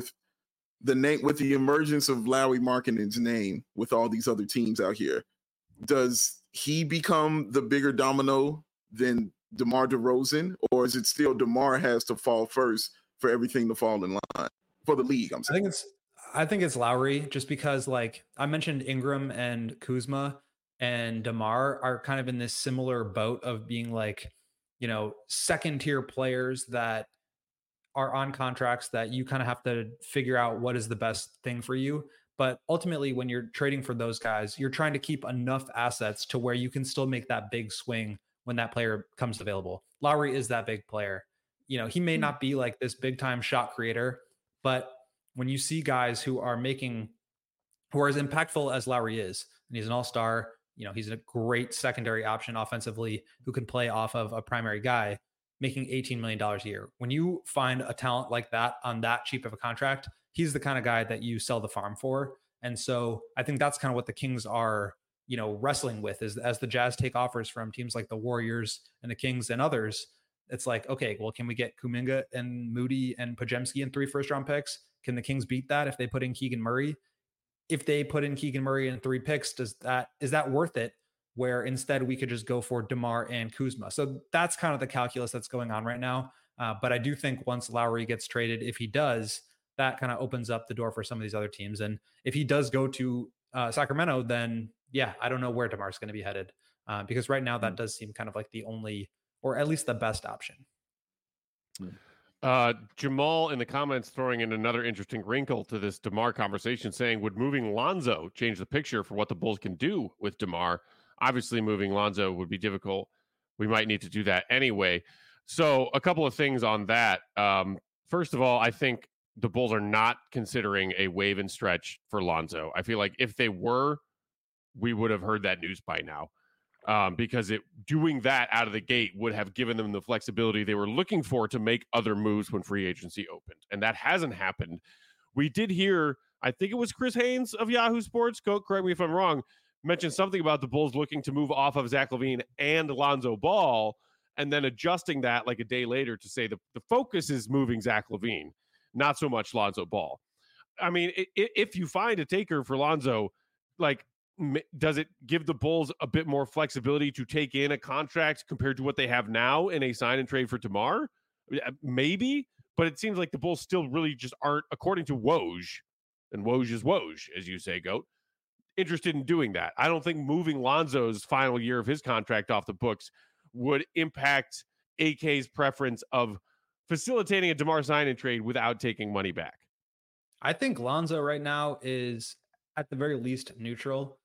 with the emergence of Lauri Markkanen's name with all these other teams out here, does he become the bigger domino than DeMar DeRozan, or is it still DeMar has to fall first for everything to fall in line for the league? I'm saying. I think it's Lauri, just because like I mentioned, Ingram and Kuzma and DeMar are kind of in this similar boat of being like, second tier players that are on contracts that you kind of have to figure out what is the best thing for you. But ultimately, when you're trading for those guys, you're trying to keep enough assets to where you can still make that big swing when that player comes available. Lauri is that big player. He may not be like this big time shot creator, but when you see guys who are as impactful as Lauri is, and he's an all-star, he's a great secondary option offensively who can play off of a primary guy, making $18 million a year. When you find a talent like that on that cheap of a contract, he's the kind of guy that you sell the farm for. And so I think that's kind of what the Kings are, wrestling with, is as the Jazz take offers from teams like the Warriors and the Kings and others. It's like, okay, well, can we get Kuminga and Moody and Podziemski and 3 first-round picks? Can the Kings beat that if they put in Keegan Murray? If they put in Keegan Murray and 3 picks, is that worth it? Where instead we could just go for DeMar and Kuzma. So that's kind of the calculus that's going on right now. But I do think once Lauri gets traded, if he does, that kind of opens up the door for some of these other teams. And if he does go to Sacramento, then yeah, I don't know where DeMar's going to be headed, because right now that does seem kind of like the only, or at least the best option. Jamal in the comments throwing in another interesting wrinkle to this DeMar conversation, saying, would moving Lonzo change the picture for what the Bulls can do with DeMar? Obviously, moving Lonzo would be difficult. We might need to do that anyway. So a couple of things on that. First of all, I think the Bulls are not considering a waive and stretch for Lonzo. I feel like if they were, we would have heard that news by now. Because doing that out of the gate would have given them the flexibility they were looking for to make other moves when free agency opened. And that hasn't happened. We did hear, I think it was Chris Haynes of Yahoo Sports, correct me if I'm wrong, mentioned something about the Bulls looking to move off of Zach LaVine and Lonzo Ball, and then adjusting that like a day later to say the focus is moving Zach LaVine, not so much Lonzo Ball. I mean, if you find a taker for Lonzo, like, does it give the Bulls a bit more flexibility to take in a contract compared to what they have now in a sign and trade for DeMar? Maybe, but it seems like the Bulls still really just aren't, according to Woj, and Woj is Woj, as you say, Goat, interested in doing that. I don't think moving Lonzo's final year of his contract off the books would impact AK's preference of facilitating a DeMar sign and trade without taking money back. I think Lonzo right now is at the very least neutral.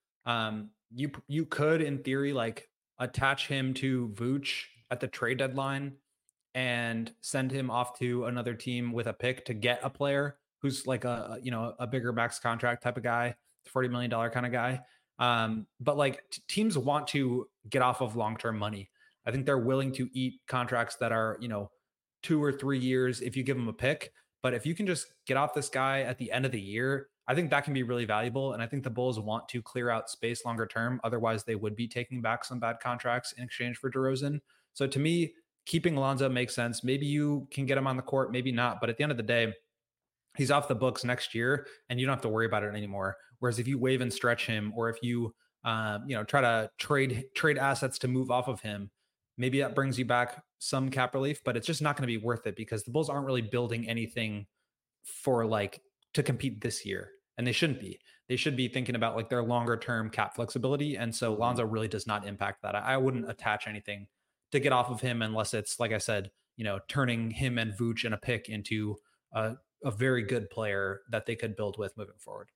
You could, in theory, like attach him to Vooch at the trade deadline and send him off to another team with a pick to get a player who's like a bigger max contract type of guy, $40 million kind of guy. But like teams want to get off of long-term money. I think they're willing to eat contracts that are, 2 or 3 years if you give them a pick. But if you can just get off this guy at the end of the year, I think that can be really valuable. And I think the Bulls want to clear out space longer term. Otherwise, they would be taking back some bad contracts in exchange for DeRozan. So to me, keeping Lonzo makes sense. Maybe you can get him on the court, maybe not. But at the end of the day, he's off the books next year and you don't have to worry about it anymore. Whereas if you waive and stretch him, or if you, try to trade assets to move off of him, maybe that brings you back some cap relief, but it's just not going to be worth it because the Bulls aren't really building anything for to compete this year. And they shouldn't be. They should be thinking about like their longer term cap flexibility. And so Lonzo really does not impact that. I wouldn't attach anything to get off of him unless it's, like I said, turning him and Vooch and a pick into a very good player that they could build with moving forward.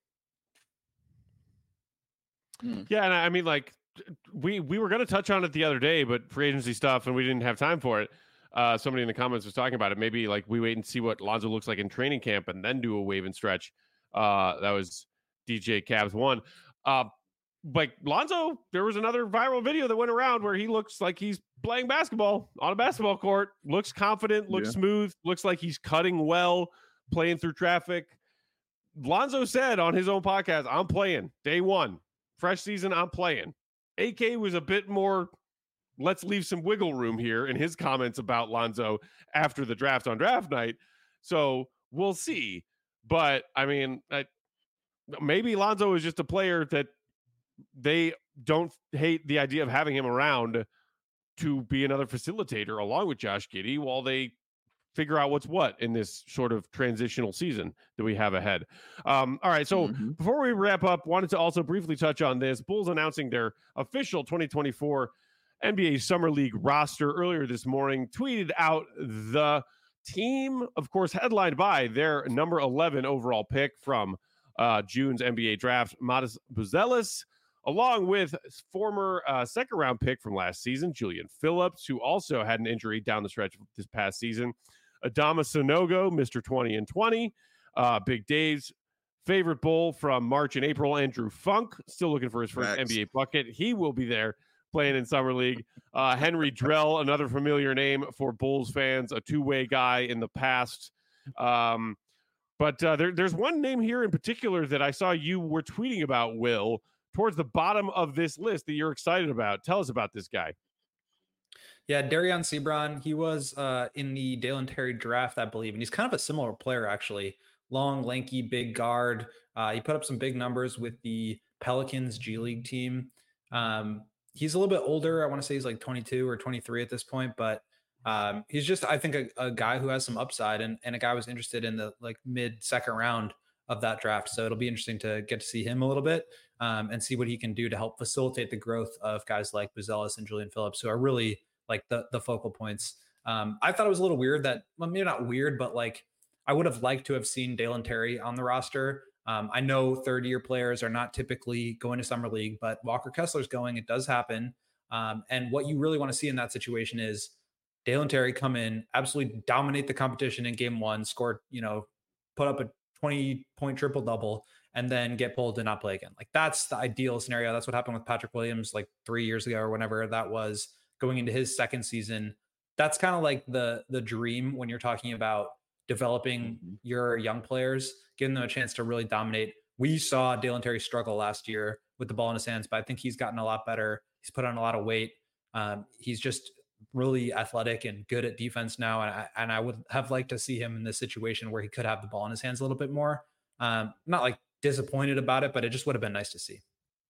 Yeah, and I mean, like, we were going to touch on it the other day, but free agency stuff, and we didn't have time for it. Somebody in the comments was talking about it. Maybe like we wait and see what Lonzo looks like in training camp and then do a wave and stretch. That was DJ Cavs 1. Like Lonzo, there was another viral video that went around where he looks like he's playing basketball on a basketball court, looks confident, looks smooth, looks like he's cutting well, playing through traffic. Lonzo said on his own podcast, I'm playing day one, fresh season, I'm playing. AK was a bit more, let's leave some wiggle room here in his comments about Lonzo after the draft on draft night. So we'll see. But I mean, maybe Lonzo is just a player that they don't hate the idea of having him around to be another facilitator along with Josh Giddey while they figure out what's what in this sort of transitional season that we have ahead. All right. So before we wrap up, wanted to also briefly touch on this. Bulls announcing their official 2024 NBA Summer League roster earlier this morning, tweeted out the team, of course, headlined by their number 11 overall pick from June's NBA draft, Matas Buzelis, along with former second round pick from last season, Julian Phillips, who also had an injury down the stretch this past season, Adama Sanogo, Mr. 20 and 20, Big Dave's favorite Bull from March and April, Andrew Funk, still looking for his first NBA bucket. He will be there playing in Summer League. Henry Drell, another familiar name for Bulls fans, a two-way guy in the past. But there's one name here in particular that I saw you were tweeting about, Will, towards the bottom of this list that you're excited about. Tell us about this guy. Yeah, Darion Sebron. He was in the Dalen Terry draft, I believe, and he's kind of a similar player, actually. Long, lanky, big guard. He put up some big numbers with the Pelicans G League team. He's a little bit older. I want to say he's like 22 or 23 at this point, but he's just, I think, a guy who has some upside, and a guy was interested in the like mid-second round of that draft. So it'll be interesting to get to see him a little bit and see what he can do to help facilitate the growth of guys like Buzelis and Julian Phillips, who are really like the focal points. I thought it was a little weird that, well, maybe not weird, but like I would have liked to have seen Dalen Terry on the roster. I know third-year players are not typically going to Summer League, but Walker Kessler's going. It does happen. And what you really want to see in that situation is Dalen Terry come in, absolutely dominate the competition in game one, score, put up a 20-point triple-double and then get pulled and not play again. Like that's the ideal scenario. That's what happened with Patrick Williams like 3 years ago or whenever that was, going into his second season. That's kind of like the dream when you're talking about developing your young players, giving them a chance to really dominate. We saw Dalen Terry struggle last year with the ball in his hands, but I think he's gotten a lot better. He's put on a lot of weight. He's just really athletic and good at defense now. And I would have liked to see him in this situation where he could have the ball in his hands a little bit more. Not like disappointed about it, but it just would have been nice to see.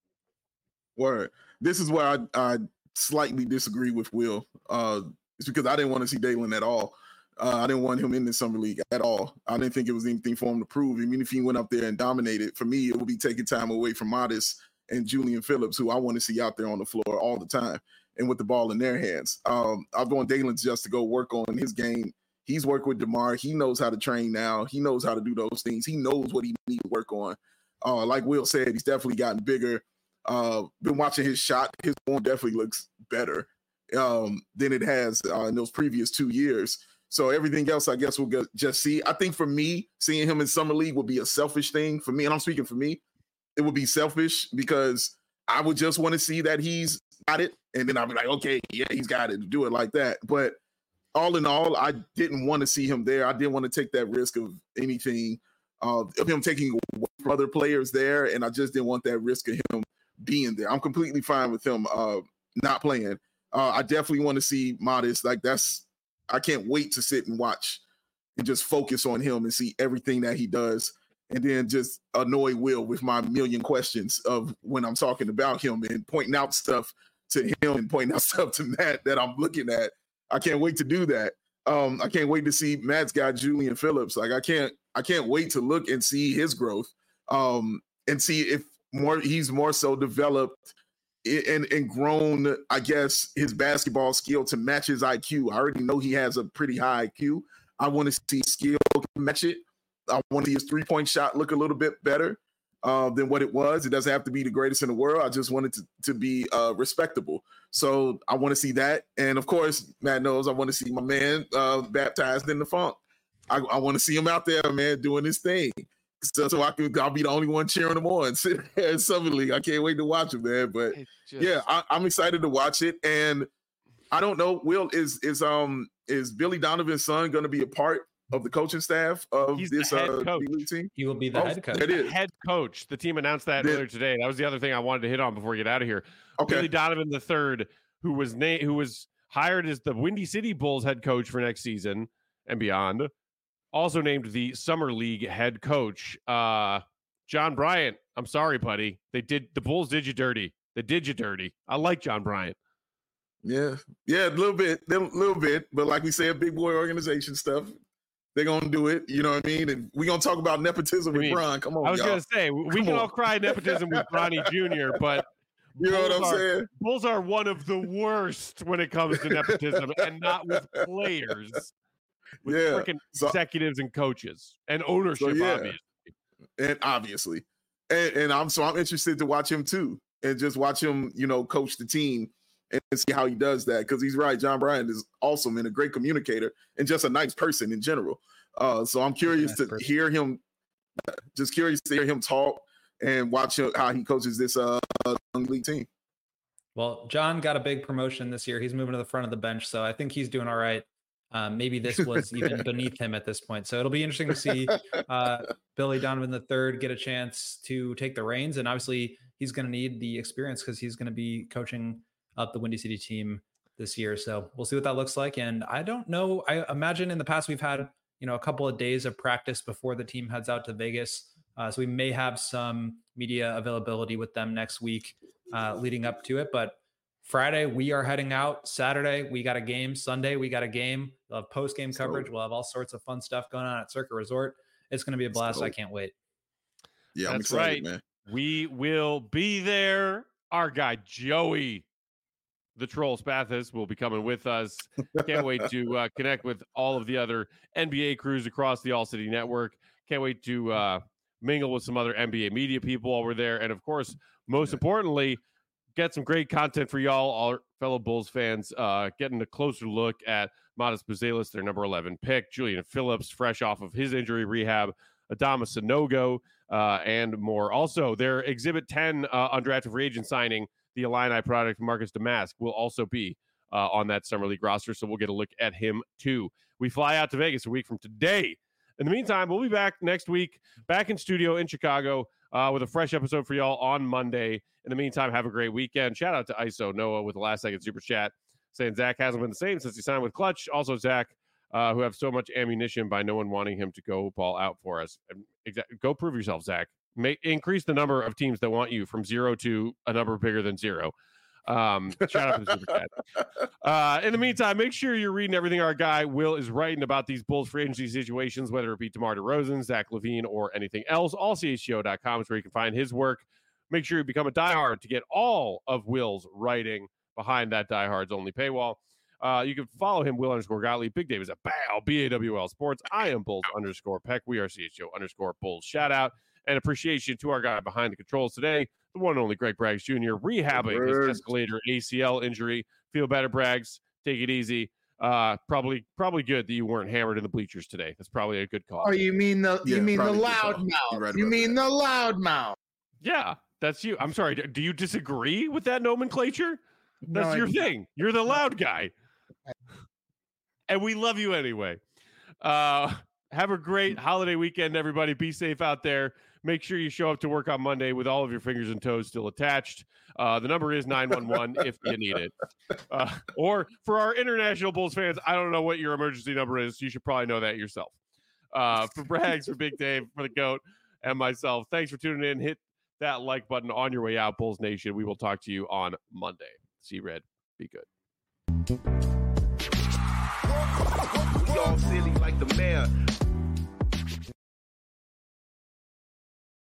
Word. This is where I slightly disagree with Will. It's because I didn't want to see Dalen at all. I didn't want him in the summer league at all. I didn't think it was anything for him to prove. Even if he went up there and dominated, for me, it would be taking time away from Modest and Julian Phillips, who I want to see out there on the floor all the time and with the ball in their hands. I'm going Dalen just to go work on his game. He's worked with DeMar. He knows how to train now. He knows how to do those things. He knows what he needs to work on. Like Will said, he's definitely gotten bigger. Been watching his shot. His form definitely looks better than it has in those previous 2 years. So everything else, I guess, we'll just see. I think for me, seeing him in Summer League would be a selfish thing for me. And I'm speaking for me. It would be selfish because I would just want to see that he's got it. And then I'll be like, okay, yeah, he's got it to do it like that. But all in all, I didn't want to see him there. I didn't want to take that risk of anything, of him taking away from other players there. And I just didn't want that risk of him being there. I'm completely fine with him not playing. I definitely want to see Modest. Like I can't wait to sit and watch and just focus on him and see everything that he does. And then just annoy Will with my million questions of when I'm talking about him and pointing out stuff to him and pointing out stuff to Matt that I'm looking at. I can't wait to do that. I can't wait to see Matt's guy, Julian Phillips. Like I can't wait to look and see his growth and see if he's more so developed and grown, I guess, his basketball skill to match his IQ. I already know he has a pretty high IQ. I want to see skill match it. I want to see his three-point shot look a little bit better than what it was. It doesn't have to be the greatest in the world. I just want it to be respectable. So I want to see that. And, of course, Matt knows I want to see my man baptized in the funk. I want to see him out there, man, doing his thing. So I'll be the only one cheering him on. In Summer League. I can't wait to watch him, man. But I'm excited to watch it. And I don't know, Will, is Billy Donovan's son going to be a part of the coaching staff of this team? He will be the head coach. It is head coach. The team announced that earlier today. That was the other thing I wanted to hit on before we get out of here. Okay. Billy Donovan III, who was hired as the Windy City Bulls head coach for next season and beyond. Also named the Summer League head coach. John Bryant, I'm sorry, buddy. The Bulls did you dirty. They did you dirty. I like John Bryant. Yeah, a little bit. But like we said, big boy organization stuff. They're going to do it. You know what I mean? And we're going to talk about nepotism with Bron. Come on, I was going to say, we can all cry nepotism with Bronny Jr., but you know what I'm saying? Bulls are one of the worst when it comes to nepotism, and not with players. With freaking executives and coaches and ownership, obviously. And I'm interested to watch him too, and just watch him, coach the team and see how he does that. Because he's right, John Bryant is awesome and a great communicator and just a nice person in general. So I'm curious to hear him. Just curious to hear him talk and watch how he coaches this young league team. Well, John got a big promotion this year. He's moving to the front of the bench, so I think he's doing all right. Maybe this was even beneath him at this point. So it'll be interesting to see Billy Donovan III get a chance to take the reins. And obviously he's going to need the experience because he's going to be coaching up the Windy City team this year. So we'll see what that looks like. And I don't know. I imagine in the past we've had, a couple of days of practice before the team heads out to Vegas. So we may have some media availability with them next week leading up to it. But Friday, we are heading out. Saturday, we got a game. Sunday, we got a game. We'll have post-game coverage. We'll have all sorts of fun stuff going on at Circuit Resort. It's going to be a blast. I can't wait. Yeah, I'm excited, man. We will be there. Our guy, Joey, the Troll Spathis, will be coming with us. Can't wait to connect with all of the other NBA crews across the All-City Network. Can't wait to mingle with some other NBA media people while we're there. And, of course, most importantly, get some great content for y'all, our fellow Bulls fans, getting a closer look at Modest Buzelis, their number 11 pick, Julian Phillips, fresh off of his injury rehab, Adama Sanogo, and more. Also, their Exhibit 10 undrafted free agent signing, the Illini product Marcus Damask, will also be on that Summer League roster, so we'll get a look at him too. We fly out to Vegas a week from today. In the meantime, we'll be back next week, back in studio in Chicago with a fresh episode for y'all on Monday. In the meantime, have a great weekend. Shout out to ISO Noah with the last second super chat saying Zach hasn't been the same since he signed with Clutch. Also, Zach, who have so much ammunition by no one wanting him to go ball out for us. Go prove yourself, Zach. Increase the number of teams that want you from 0 to a number bigger than 0. Shout out to the super chat. In the meantime, make sure you're reading everything our guy Will is writing about these Bulls free agency situations, whether it be DeMar DeRozan, Zach LaVine, or anything else. AllCHGO.com is where you can find his work. Make sure you become a diehard to get all of Will's writing behind that diehard's only paywall. You can follow him, Will_Gottlieb. Big Dave is at BAWL Sports. I am Bulls_Peck. We are CHGO_Bulls. Shout out and appreciation to our guy behind the controls today, the one and only Greg Braggs Jr., rehabbing his Escalator ACL injury. Feel better, Braggs. Take it easy. Probably good that you weren't hammered in the bleachers today. That's probably a good call. Oh, you mean the loud mouth? You mean the loud mouth? Yeah, that's you. I'm sorry. Do you disagree with that nomenclature? That's your thing. You're the loud guy. And we love you anyway. Have a great holiday weekend, everybody. Be safe out there. Make sure you show up to work on Monday with all of your fingers and toes still attached. The number is 911 if you need it. Or for our international Bulls fans, I don't know what your emergency number is. You should probably know that yourself. For Braggs, for Big Dave, for the GOAT, and myself, thanks for tuning in. Hit that like button on your way out, Bulls Nation. We will talk to you on Monday. See you, Red. Be good. We all silly like the mayor.